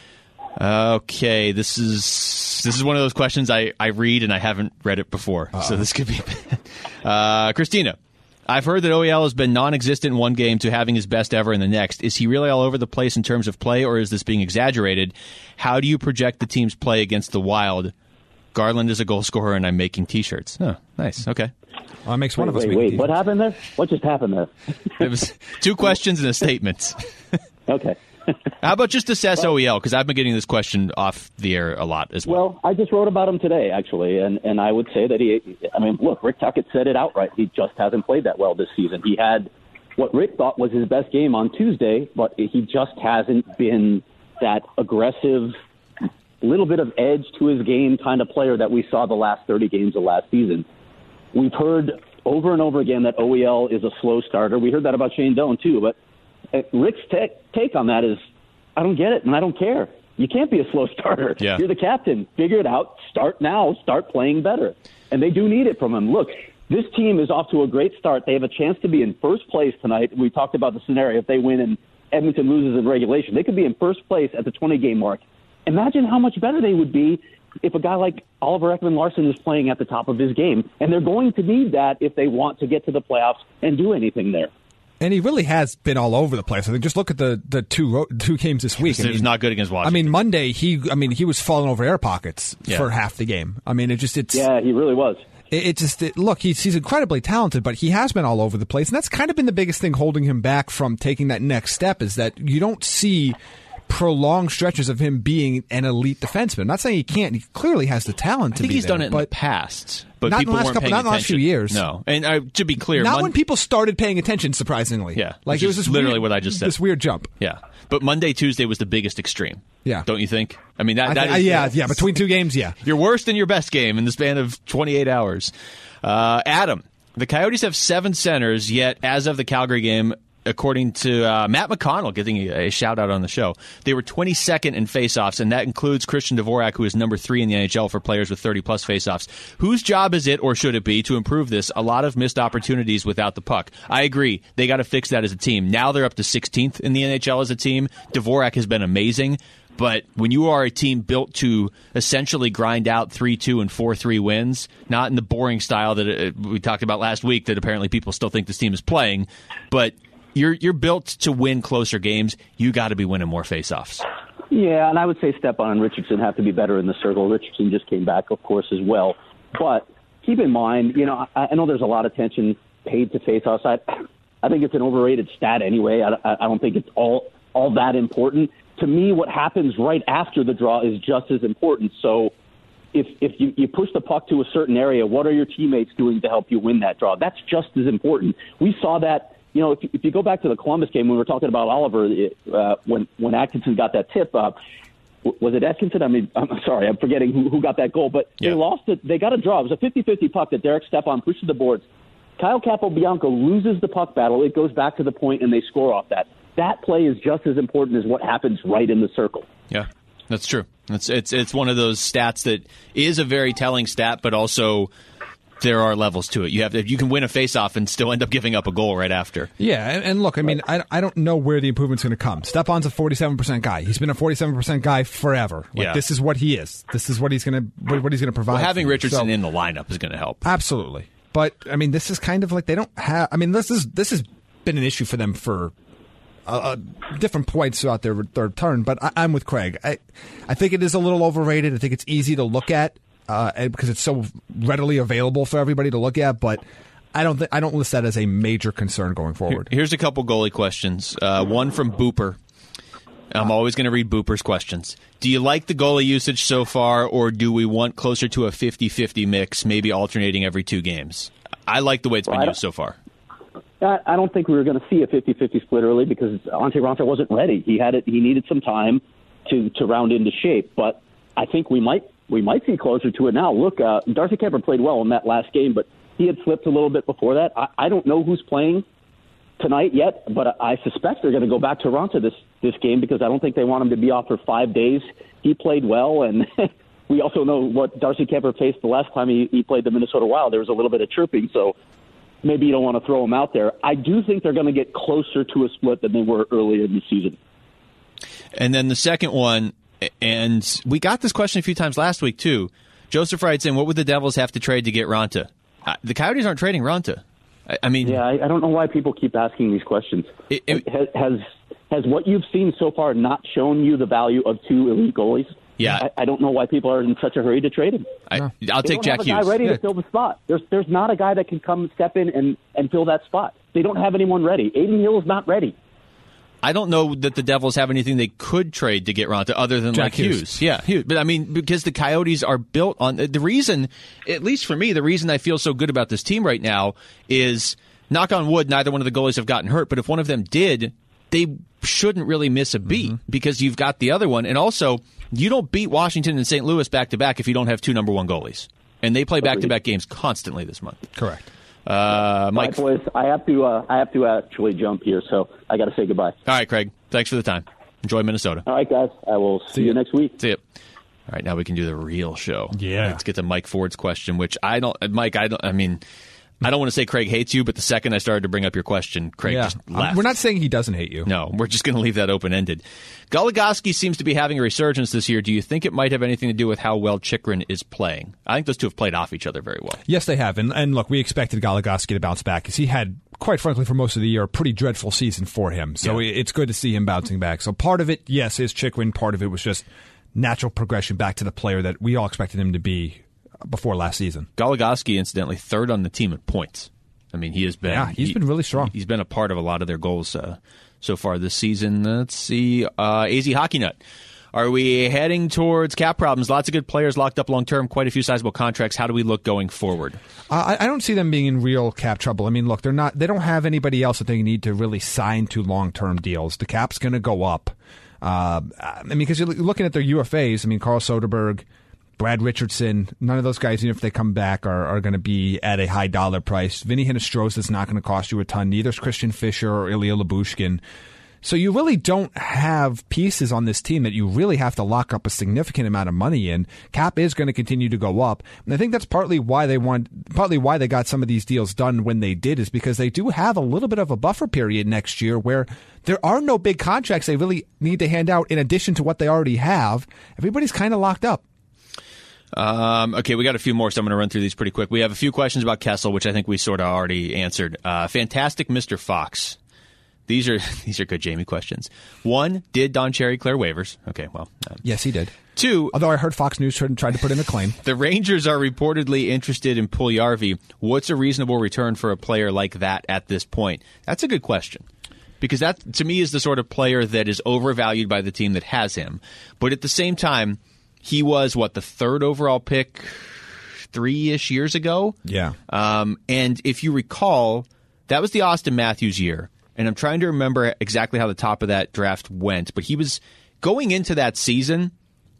Okay, this is this is one of those questions I, I read and I haven't read it before, Uh-oh. so this could be bad. Uh, Christina, I've heard that O E L has been non-existent in one game to having his best ever in the next. Is he really all over the place in terms of play, or is this being exaggerated? How do you project the team's play against the Wild? Garland is a goal scorer, and I'm making T-shirts. Oh, nice. Okay. well, that makes one Wait, of us. wait, make wait. a What defense. happened there? What just happened there? It was two questions and a statement. Okay. How about just assess O E L? Because I've been getting this question off the air a lot as well. Well, I just wrote about him today, actually, and, and I would say that he, I mean, look, Rick Tuckett said it outright. He just hasn't played that well this season. He had what Rick thought was his best game on Tuesday, but he just hasn't been that aggressive, little bit of edge to his game kind of player that we saw the last thirty games of last season. We've heard over and over again that O E L is a slow starter. We heard that about Shane Doan, too, but Rick's te- take on that is, I don't get it, and I don't care. You can't be a slow starter. Yeah. You're the captain. Figure it out. Start now. Start playing better. And they do need it from him. Look, this team is off to a great start. They have a chance to be in first place tonight. We talked about the scenario. If they win and Edmonton loses in regulation, they could be in first place at the twenty-game mark. Imagine how much better they would be if a guy like Oliver Ekman-Larsson is playing at the top of his game. And they're going to need that if they want to get to the playoffs and do anything there. And he really has been all over the place. I think just look at the, the two ro- two games this week. It was not good against I Washington. mean, Monday he I mean he was falling over air pockets Yeah. for half the game. I mean, it just it's Yeah, he really was. it, it just it, look he's he's incredibly talented, but he has been all over the place, and that's kind of been the biggest thing holding him back from taking that next step is that you don't see prolonged stretches of him being an elite defenseman. I'm not saying he can't. He clearly has the talent I to think be he's there, done it in but the past. But Not in the people last weren't couple- paying not in the last attention. few years. No. And uh, to be clear, not Mon- when people started paying attention. Surprisingly, Yeah, like which it was is this literally weird- what I just said. This weird jump. Yeah. But Monday, Tuesday was the biggest extreme. Yeah. Don't you think? I mean, that, I that thi- is, yeah, yeah. Between two games, yeah. your worst and your best game in the span of twenty-eight hours. Uh, Adam, the Coyotes have seven centers, yet as of the Calgary game, according to uh, Matt McConnell, getting a, a shout-out on the show, they were twenty-second in faceoffs, and that includes Christian Dvorak, who is number three in the N H L for players with thirty-plus faceoffs. Whose job is it, or should it be, to improve this? A lot of missed opportunities without the puck. I agree. They got to fix that as a team. Now they're up to sixteenth in the N H L as a team. Dvorak has been amazing. But when you are a team built to essentially grind out three two and four three wins, not in the boring style that it, we talked about last week that apparently people still think this team is playing, but you're you're built to win closer games, you got to be winning more faceoffs. Yeah, and I would say Stepan and Richardson have to be better in the circle. Richardson just came back, of course, as well. But keep in mind, you know, I, I know there's a lot of attention paid to faceoffs. I, I think it's an overrated stat anyway. I, I don't think it's all all that important. To me, what happens right after the draw is just as important. So if if you, you push the puck to a certain area, what are your teammates doing to help you win that draw? That's just as important. We saw that, you know, if, if you go back to the Columbus game when we were talking about Oliver, uh, when, when Atkinson got that tip up, was it Atkinson? I mean, I'm sorry, I'm forgetting who, who got that goal, but yeah. they lost it. They got a draw. It was a fifty-fifty puck that Derek Stepan pushes the boards. Kyle Capobianco loses the puck battle. It goes back to the point, and they score off that. That play is just as important as what happens right in the circle. Yeah, that's true. It's it's it's one of those stats that is a very telling stat, but also there are levels to it. You have to, you can win a faceoff and still end up giving up a goal right after. Yeah, and, and look, I mean, I, I don't know where the improvement's going to come. Stepan's a forty-seven percent guy. He's been a forty-seven percent guy forever. Like, yeah. This is what he is. This is what he's going to what he's going to provide. Well, having Richardson so, in the lineup is going to help. Absolutely. But I mean, this is kind of like they don't have. I mean, this is this has been an issue for them for uh, different points throughout their their turn. But I, I'm with Craig. I I think it is a little overrated. I think it's easy to look at uh, because it's so readily available for everybody to look at. But I don't th- I don't list that as a major concern going forward. Here's a couple goalie questions. Uh, one from Booper. I'm always going to read Booper's questions. Do you like the goalie usage so far, or do we want closer to a fifty-fifty mix, maybe alternating every two games? I like the way it's been well, used so far. I don't think we were going to see a fifty-fifty split early because Antti Raanta wasn't ready. He had it. He needed some time to, to round into shape. But I think we might we might see closer to it now. Look, uh, Darcy Kuemper played well in that last game, but he had slipped a little bit before that. I, I don't know who's playing tonight yet, but I suspect they're going to go back to Raanta this, this game because I don't think they want him to be off for five days. He played well, and we also know what Darcy Kuemper faced the last time he, he played the Minnesota Wild. There was a little bit of chirping, so maybe you don't want to throw him out there. I do think they're going to get closer to a split than they were earlier in the season. And then the second one, and we got this question a few times last week, too. Joseph writes in, what would the Devils have to trade to get Raanta? Uh, the Coyotes aren't trading Raanta. I, I mean... Yeah, I, I don't know why people keep asking these questions. It, it, has, has has what you've seen so far not shown you the value of two elite goalies? Yeah. I, I don't know why people are in such a hurry to trade him. I, I'll they take don't Jack have a Hughes. guy ready yeah. to fill the spot. There's there's not a guy that can come step in and, and fill that spot. They don't have anyone ready. Aiden Hill is not ready. I don't know that the Devils have anything they could trade to get Raanta other than Jack like Hughes. Hughes. Yeah, Hughes. But I mean, because the Coyotes are built on the reason, at least for me, the reason I feel so good about this team right now is, knock on wood, neither one of the goalies have gotten hurt. But if one of them did, they shouldn't really miss a beat mm-hmm. because you've got the other one. And also, you don't beat Washington and Saint Louis back to back if you don't have two number one goalies. And they play back to back games constantly this month. Correct. Uh, Mike, All right, boys, I have to. Uh, I have to actually jump here, so I got to say goodbye. All right, Craig. Thanks for the time. Enjoy Minnesota. All right, guys. I will see, see you next week. See you. All right, now we can do the real show. Yeah. Let's get to Mike Ford's question, which I don't. Mike, I don't. I mean, I don't want to say Craig hates you, but the second I started to bring up your question, Craig yeah. just left. We're not saying he doesn't hate you. No, we're just going to leave that open-ended. Goligoski seems to be having a resurgence this year. Do you think it might have anything to do with how well Chychrun is playing? I think those two have played off each other very well. Yes, they have. And, and look, we expected Goligoski to bounce back because he had, quite frankly, for most of the year, a pretty dreadful season for him. So yeah. it's good to see him bouncing back. So part of it, yes, is Chychrun. Part of it was just natural progression back to the player that we all expected him to be before last season. Goligoski, incidentally, third on the team in points. I mean, he has been. Yeah, he's he, been really strong. He's been a part of a lot of their goals uh, so far this season. Let's see. Uh, A Z Hockey Nut. Are we heading towards cap problems? Lots of good players locked up long term, quite a few sizable contracts. How do we look going forward? Uh, I, I don't see them being in real cap trouble. I mean, look, they're not. They don't have anybody else that they need to really sign to long term deals. The cap's going to go up. Uh, I mean, because you're looking at their U F As. I mean, Carl Soderberg, Brad Richardson, none of those guys, even if they come back, are, are going to be at a high dollar price. Vinny Hinostroza is not going to cost you a ton. Neither is Christian Fischer or Ilya Lyubushkin. So you really don't have pieces on this team that you really have to lock up a significant amount of money in. Cap is going to continue to go up, and I think that's partly why they want, partly why they got some of these deals done when they did, is because they do have a little bit of a buffer period next year where there are no big contracts they really need to hand out in addition to what they already have. Everybody's kind of locked up. Um, okay, we got a few more, so I'm going to run through these pretty quick. We have a few questions about Kessel, which I think we sort of already answered. Uh, fantastic Mister Fox. These are these are good Jamie questions. One, did Don Cherry clear waivers? Okay, well. Um, yes, he did. Two. Although I heard Fox News tried to put in a claim. The Rangers are reportedly interested in Puljujarvi. What's a reasonable return for a player like that at this point? That's a good question. Because that, to me, is the sort of player that is overvalued by the team that has him. But at the same time, he was, what, the third overall pick three-ish years ago? Yeah. Um, and if you recall, that was the Austin Matthews year. And I'm trying to remember exactly how the top of that draft went. But he was going into that season,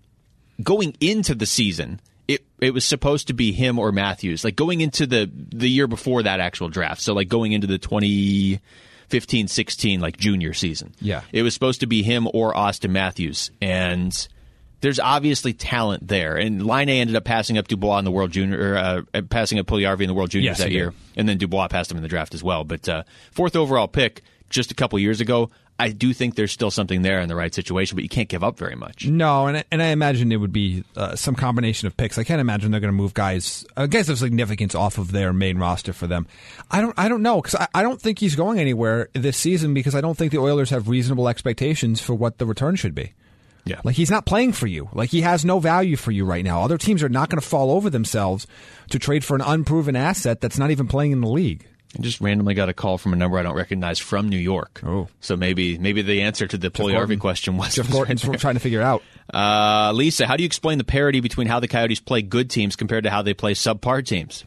going into the season, it it was supposed to be him or Matthews. Like going into the, the year before that actual draft. So like going into the twenty fifteen sixteen like junior season. Yeah. It was supposed to be him or Austin Matthews. And there's obviously talent there. And Line A ended up passing up Dubois in the World Junior, or, uh, passing up Puljujarvi in the World Juniors yes, that year. And then Dubois passed him in the draft as well. But uh, fourth overall pick just a couple years ago, I do think there's still something there in the right situation, but you can't give up very much. No, and and I imagine it would be uh, some combination of picks. I can't imagine they're going to move guys, uh, guys of significance off of their main roster for them. I don't, I don't know, because I, I don't think he's going anywhere this season because I don't think the Oilers have reasonable expectations for what the return should be. Yeah. Like, he's not playing for you. Like, he has no value for you right now. Other teams are not going to fall over themselves to trade for an unproven asset that's not even playing in the league. I just randomly got a call from a number I don't recognize from New York. Oh. So maybe maybe the answer to the Puljujarvi question was... Jeff Gordon's right trying to figure it out. Uh, Lisa, how do you explain the parity between how the Coyotes play good teams compared to how they play subpar teams?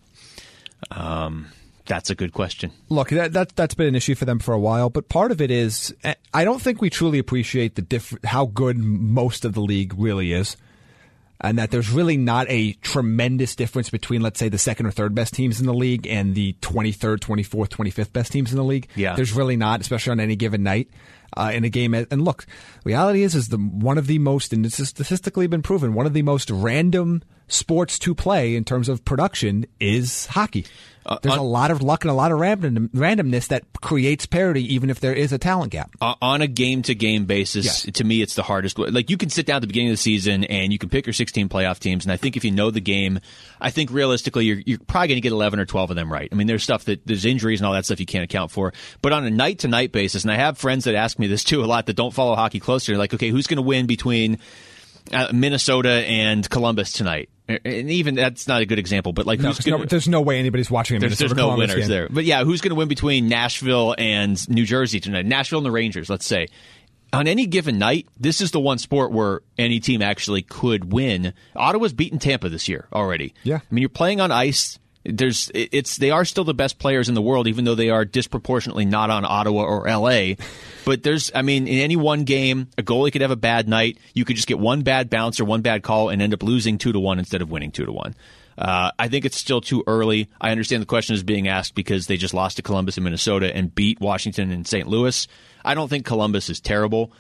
Um... That's a good question. Look, that, that, that's been an issue for them for a while, but part of it is I don't think we truly appreciate the diff- how good most of the league really is, and that there's really not a tremendous difference between, let's say, the second or third best teams in the league and the twenty-third, twenty-fourth, twenty-fifth best teams in the league. Yeah. There's really not, especially on any given night. Uh, in a game, and look, reality is, is the one of the most, and this has statistically been proven, one of the most random sports to play in terms of production is hockey. Uh, There's on, a lot of luck and a lot of random, randomness that creates parity, even if there is a talent gap. Uh, on a game-to-game basis, yes. To me, it's the hardest. Like, you can sit down at the beginning of the season and you can pick your sixteen playoff teams, and I think if you know the game, I think realistically you're, you're probably going to get eleven or twelve of them right. I mean, there's stuff that there's injuries and all that stuff you can't account for. But on a night-to-night basis, and I have friends that ask me this too a lot that don't follow hockey closely, like, okay, who's going to win between uh, Minnesota and Columbus tonight? And even that's not a good example, but like, no, who's there's, gonna, no, there's no way anybody's watching a there's, Minnesota there's no Columbus winners game. there. But yeah, who's going to win between Nashville and New Jersey tonight? Nashville and the Rangers, let's say. On any given night, this is the one sport where any team actually could win. Ottawa's beaten Tampa this year already. Yeah. I mean, you're playing on ice. There's, it's they are still the best players in the world, even though they are disproportionately not on Ottawa or L A. But there's, I mean, in any one game, a goalie could have a bad night. You could just get one bad bounce or one bad call and end up losing two to one instead of winning two to one. Uh, I think it's still too early. I understand the question is being asked because they just lost to Columbus and Minnesota and beat Washington and Saint Louis. I don't think Columbus is terrible.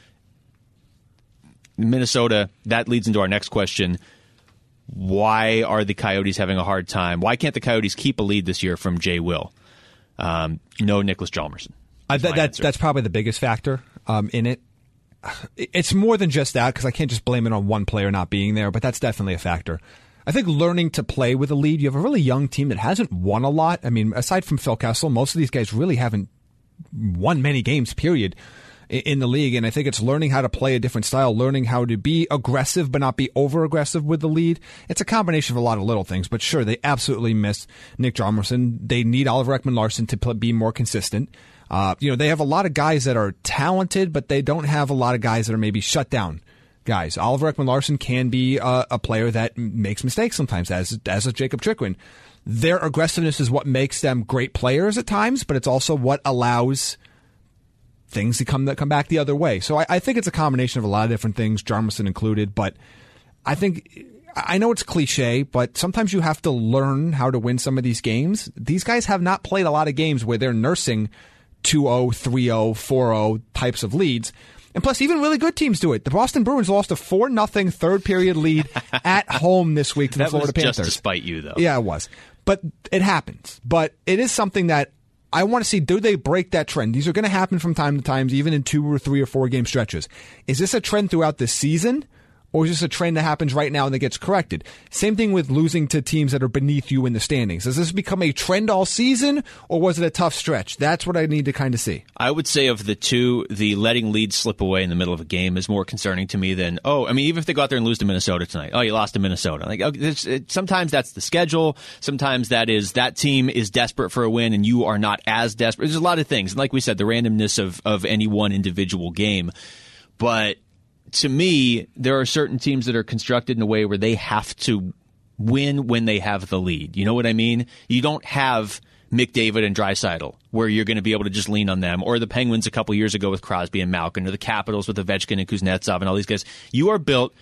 Minnesota, that leads into our next question. Why are the Coyotes having a hard time? Why can't the Coyotes keep a lead this year from Jay Will? Um, no Nicholas Hjalmarsson. Uh, that, that, that's probably the biggest factor um, in it. It's more than just that, because I can't just blame it on one player not being there, but that's definitely a factor. I think learning to play with a lead, you have a really young team that hasn't won a lot. I mean, aside from Phil Kessel, most of these guys really haven't won many games, period, in the league. And I think it's learning how to play a different style, learning how to be aggressive but not be over-aggressive with the lead. It's a combination of a lot of little things, but sure, they absolutely miss Nick Hjalmarsson. They need Oliver Ekman-Larsson to play, be more consistent. Uh, you know, they have a lot of guys that are talented, but they don't have a lot of guys that are maybe shut down guys. Oliver Ekman-Larsson can be a, a player that makes mistakes sometimes, as as is Jacob Chikrin. Their aggressiveness is what makes them great players at times, but it's also what allows things to come that come back the other way. So I, I think it's a combination of a lot of different things, Hjalmarsson included. But I think I know it's cliche, but sometimes you have to learn how to win some of these games. These guys have not played a lot of games where they're nursing two oh, three oh, four oh types of leads. And plus, even really good teams do it. The Boston Bruins lost a four nothing third period lead at home this week to the that Florida was Panthers. Just to spite you, though. Yeah, it was. But it happens. But it is something that I want to see, do they break that trend? These are going to happen from time to time, even in two or three or four game stretches. Is this a trend throughout the season? Or is this a trend that happens right now and that gets corrected? Same thing with losing to teams that are beneath you in the standings. Does this become a trend all season, or was it a tough stretch? That's what I need to kind of see. I would say of the two, the letting leads slip away in the middle of a game is more concerning to me than, oh, I mean, even if they go out there and lose to Minnesota tonight. Oh, you lost to Minnesota. Like, okay, it's, it, sometimes that's the schedule. Sometimes that is that team is desperate for a win and you are not as desperate. There's a lot of things. And like we said, the randomness of, of any one individual game. But to me, there are certain teams that are constructed in a way where they have to win when they have the lead. You know what I mean? You don't have McDavid and Draisaitl where you're going to be able to just lean on them, or the Penguins a couple years ago with Crosby and Malkin, or the Capitals with Ovechkin and Kuznetsov and all these guys. You are built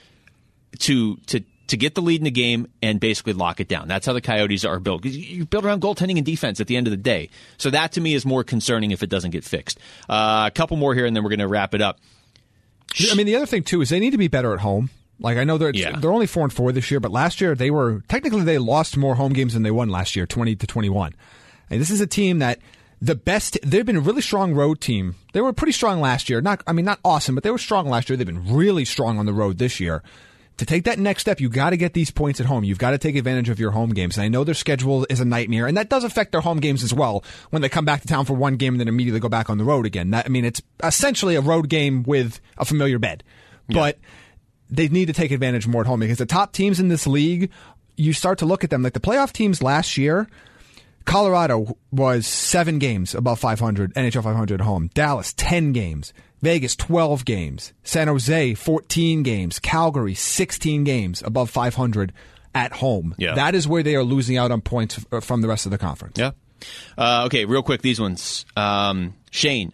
to to to get the lead in the game and basically lock it down. That's how the Coyotes are built. You're built around goaltending and defense at the end of the day. So that to me is more concerning if it doesn't get fixed. Uh, a couple more here and then we're going to wrap it up. I mean, the other thing, too, is they need to be better at home. Like, I know they're, yeah. they're only four and four this year, but last year they were, technically they lost more home games than they won last year, twenty to twenty-one. And this is a team that the best, they've been a really strong road team. They were pretty strong last year. Not, I mean, not awesome, but they were strong last year. They've been really strong on the road this year. To take that next step, you got to get these points at home. You've got to take advantage of your home games. And I know their schedule is a nightmare, and that does affect their home games as well when they come back to town for one game and then immediately go back on the road again. That, I mean, it's essentially a road game with a familiar bed. Yeah. But they need to take advantage more at home because the top teams in this league, you start to look at them. Like the playoff teams last year, Colorado was seven games above five hundred, N H L five hundred at home. Dallas, ten games. Vegas, twelve games. San Jose, fourteen games. Calgary, sixteen games above five hundred at home. Yeah. That is where they are losing out on points from the rest of the conference. Yeah. Uh, okay, real quick, these ones. Um, Shane.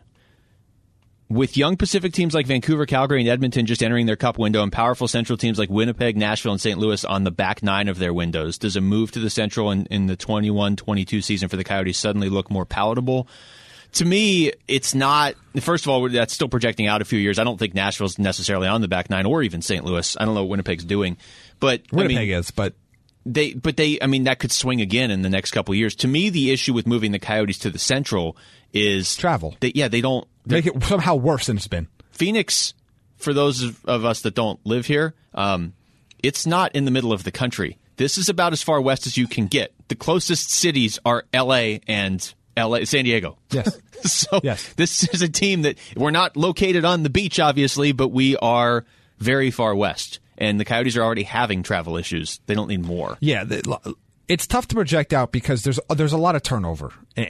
With young Pacific teams like Vancouver, Calgary, and Edmonton just entering their cup window and powerful Central teams like Winnipeg, Nashville, and Saint Louis on the back nine of their windows, does a move to the Central in, in the twenty-one twenty-two season for the Coyotes suddenly look more palatable? To me, it's not. First of all, that's still projecting out a few years. I don't think Nashville's necessarily on the back nine, or even Saint Louis. I don't know what Winnipeg's doing, but Winnipeg I mean, is. But they, but they, I mean, that could swing again in the next couple of years. To me, the issue with moving the Coyotes to the Central is travel. They, yeah, they don't make it somehow worse than it's been. Phoenix, for those of, of us that don't live here, um, it's not in the middle of the country. This is about as far west as you can get. The closest cities are L A and L A, San Diego. Yes. so yes. This is a team that we're not located on the beach, obviously, but we are very far west. And the Coyotes are already having travel issues. They don't need more. Yeah, it's tough to project out because there's there's a lot of turnover.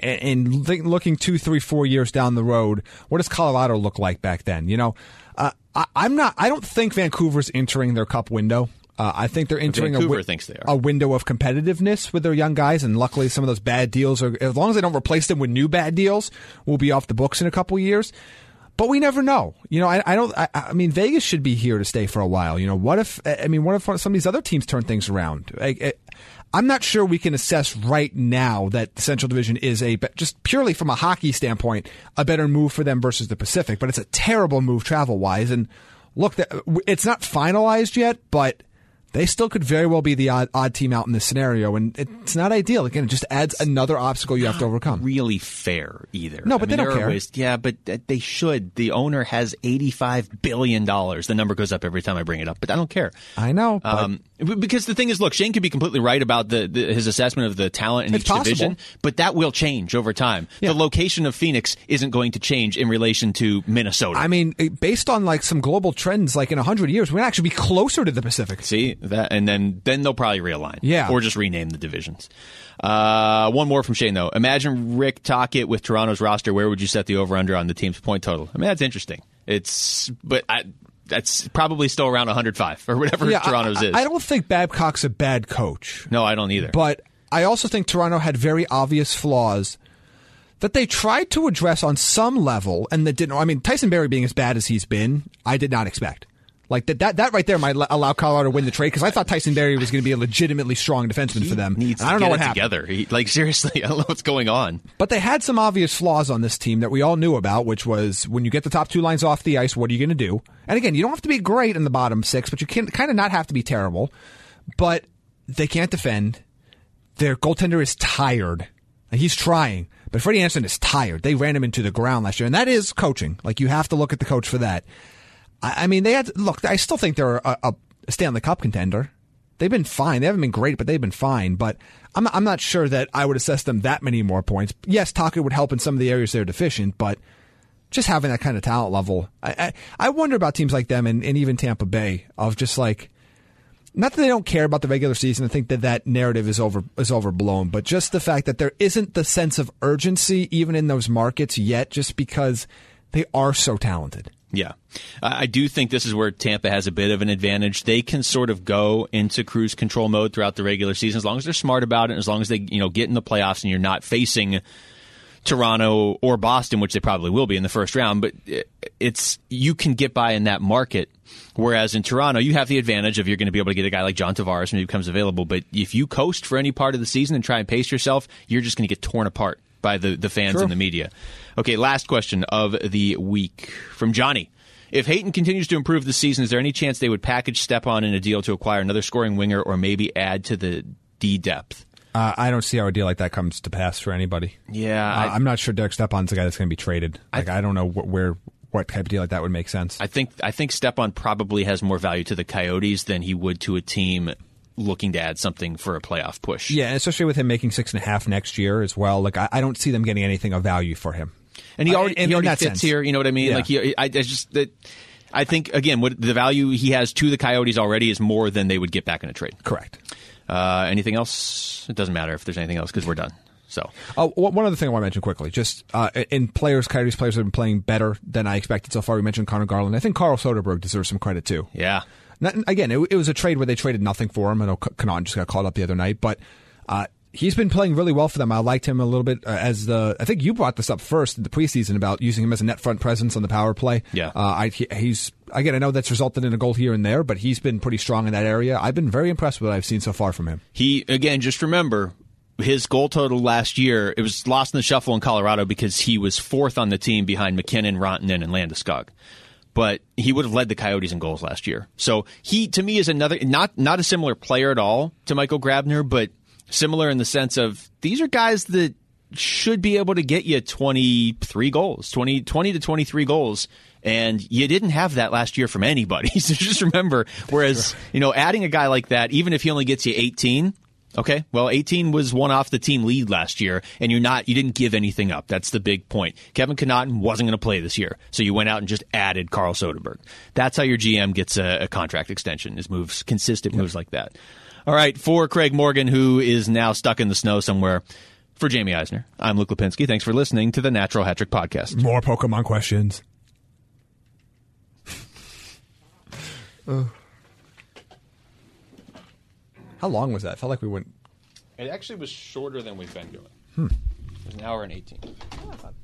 And looking two, three, four years down the road, what does Colorado look like back then? You know, uh, I, I'm not. I don't think Vancouver's entering their cup window. Uh, I think they're entering a, wi- thinks they are. a window of competitiveness with their young guys, and luckily some of those bad deals are, as long as they don't replace them with new bad deals, will be off the books in a couple years. But we never know. You know, I, I don't. I, I mean, Vegas should be here to stay for a while. You know, what if? I mean, what if some of these other teams turn things around? I, I, I'm not sure we can assess right now that the Central Division is a just purely from a hockey standpoint a better move for them versus the Pacific. But it's a terrible move travel wise. And look, it's not finalized yet, but they still could very well be the odd, odd team out in this scenario, and it's not ideal. Again, it just adds another obstacle you have to overcome. Really fair either. No, but I mean, they don't care. Ways, yeah, but they should. The owner has eighty-five billion dollars. The number goes up every time I bring it up, but I don't care. I know. But um, because the thing is, look, Shane could be completely right about the, the his assessment of the talent in it's each possible. division, but that will change over time. Yeah. The location of Phoenix isn't going to change in relation to Minnesota. I mean, based on like some global trends, like in one hundred years, we're actually be closer to the Pacific. See that, and then. Then they'll probably realign. Yeah. Or just rename the divisions. Uh, one more from Shane, though. Imagine Rick Tocchet with Toronto's roster. Where would you set the over-under on the team's point total? I mean, that's interesting. It's, but I, that's probably still around one hundred five or whatever yeah, Toronto's I, is. I don't think Babcock's a bad coach. No, I don't either. But I also think Toronto had very obvious flaws that they tried to address on some level and that didn't. I mean, Tyson Barrie being as bad as he's been, I did not expect. Like that, that, that right there might allow Colorado to win the trade because I thought Tyson Barrie was going to be a legitimately strong defenseman he for them. Needs and I don't to know get what it happened. Together, he, like seriously, I don't know what's going on. But they had some obvious flaws on this team that we all knew about, which was when you get the top two lines off the ice, what are you going to do? And again, you don't have to be great in the bottom six, but you can kind of not have to be terrible. But they can't defend. Their goaltender is tired. And he's trying, but Freddie Anderson is tired. They ran him into the ground last year, and that is coaching. Like you have to look at the coach for that. I, I mean, they had look. I still think they're a, a Stanley Cup contender. They've been fine. They haven't been great, but they've been fine. But I'm I'm not sure that I would assess them that many more points. Yes, Taka would help in some of the areas they're deficient, but just having that kind of talent level, I I, I wonder about teams like them and, and even Tampa Bay of just like. Not that they don't care about the regular season. I think that that narrative is over is overblown, but just the fact that there isn't the sense of urgency even in those markets yet, just because they are so talented. Yeah. I do think this is where Tampa has a bit of an advantage. They can sort of go into cruise control mode throughout the regular season as long as they're smart about it, as long as they, you know, get in the playoffs and you're not facing Toronto or Boston, which they probably will be in the first round, but it's you can get by in that market. Whereas in Toronto, you have the advantage of you're going to be able to get a guy like John Tavares when he becomes available. But if you coast for any part of the season and try and pace yourself, you're just going to get torn apart by the, the fans True. and the media. Okay, last question of the week from Johnny. If Hayton continues to improve this season, is there any chance they would package Stepan in a deal to acquire another scoring winger or maybe add to the D depth? Uh, I don't see how a deal like that comes to pass for anybody. Yeah. Uh, I, I'm not sure Derek Stepan's the guy that's going to be traded. Like I, I don't know wh- where what type of deal like that would make sense. I think I think Stepan probably has more value to the Coyotes than he would to a team looking to add something for a playoff push. Yeah, especially with him making six and a half next year as well. Like I, I don't see them getting anything of value for him. And he already, uh, in, he already in fits sense. here. You know what I mean? Yeah. Like he, I, I just that. I think again, what the value he has to the Coyotes already is more than they would get back in a trade. Correct. Uh, anything else? It doesn't matter if there's anything else because we're done. So, oh, one other thing I want to mention quickly, just uh, in players, Coyotes players have been playing better than I expected so far. We mentioned Connor Garland. I think Carl Soderberg deserves some credit too. Yeah. Not, again, it, it was a trade where they traded nothing for him. I know Connaughton just got called up the other night, but uh, he's been playing really well for them. I liked him a little bit uh, as the. I think you brought this up first in the preseason about using him as a net front presence on the power play. Yeah. Uh, I, he, he's again. I know that's resulted in a goal here and there, but he's been pretty strong in that area. I've been very impressed with what I've seen so far from him. He again, just remember. His goal total last year, it was lost in the shuffle in Colorado because he was fourth on the team behind McKinnon, Rantanen, and Landeskog. But he would have led the Coyotes in goals last year. So he, to me, is another, not not a similar player at all to Michael Grabner, but similar in the sense of these are guys that should be able to get you twenty-three goals, twenty, twenty to twenty-three goals. And you didn't have that last year from anybody. So just remember, whereas, sure. you know, adding a guy like that, even if he only gets you eighteen, okay, well, eighteen was one off the team lead last year, and you're not, you didn't give anything up. That's the big point. Kevin Connaughton wasn't going to play this year, so you went out and just added Carl Soderberg. That's how your G M gets a, a contract extension, is moves, consistent yep. moves like that. All right, for Craig Morgan, who is now stuck in the snow somewhere, for Jamie Eisner, I'm Luke Lipinski. Thanks for listening to the Natural Hat Trick Podcast. More Pokemon questions. uh. How long was that? I felt like we went... It actually was shorter than we've been doing. Hmm. It was an hour and eighteen. Oh, I thought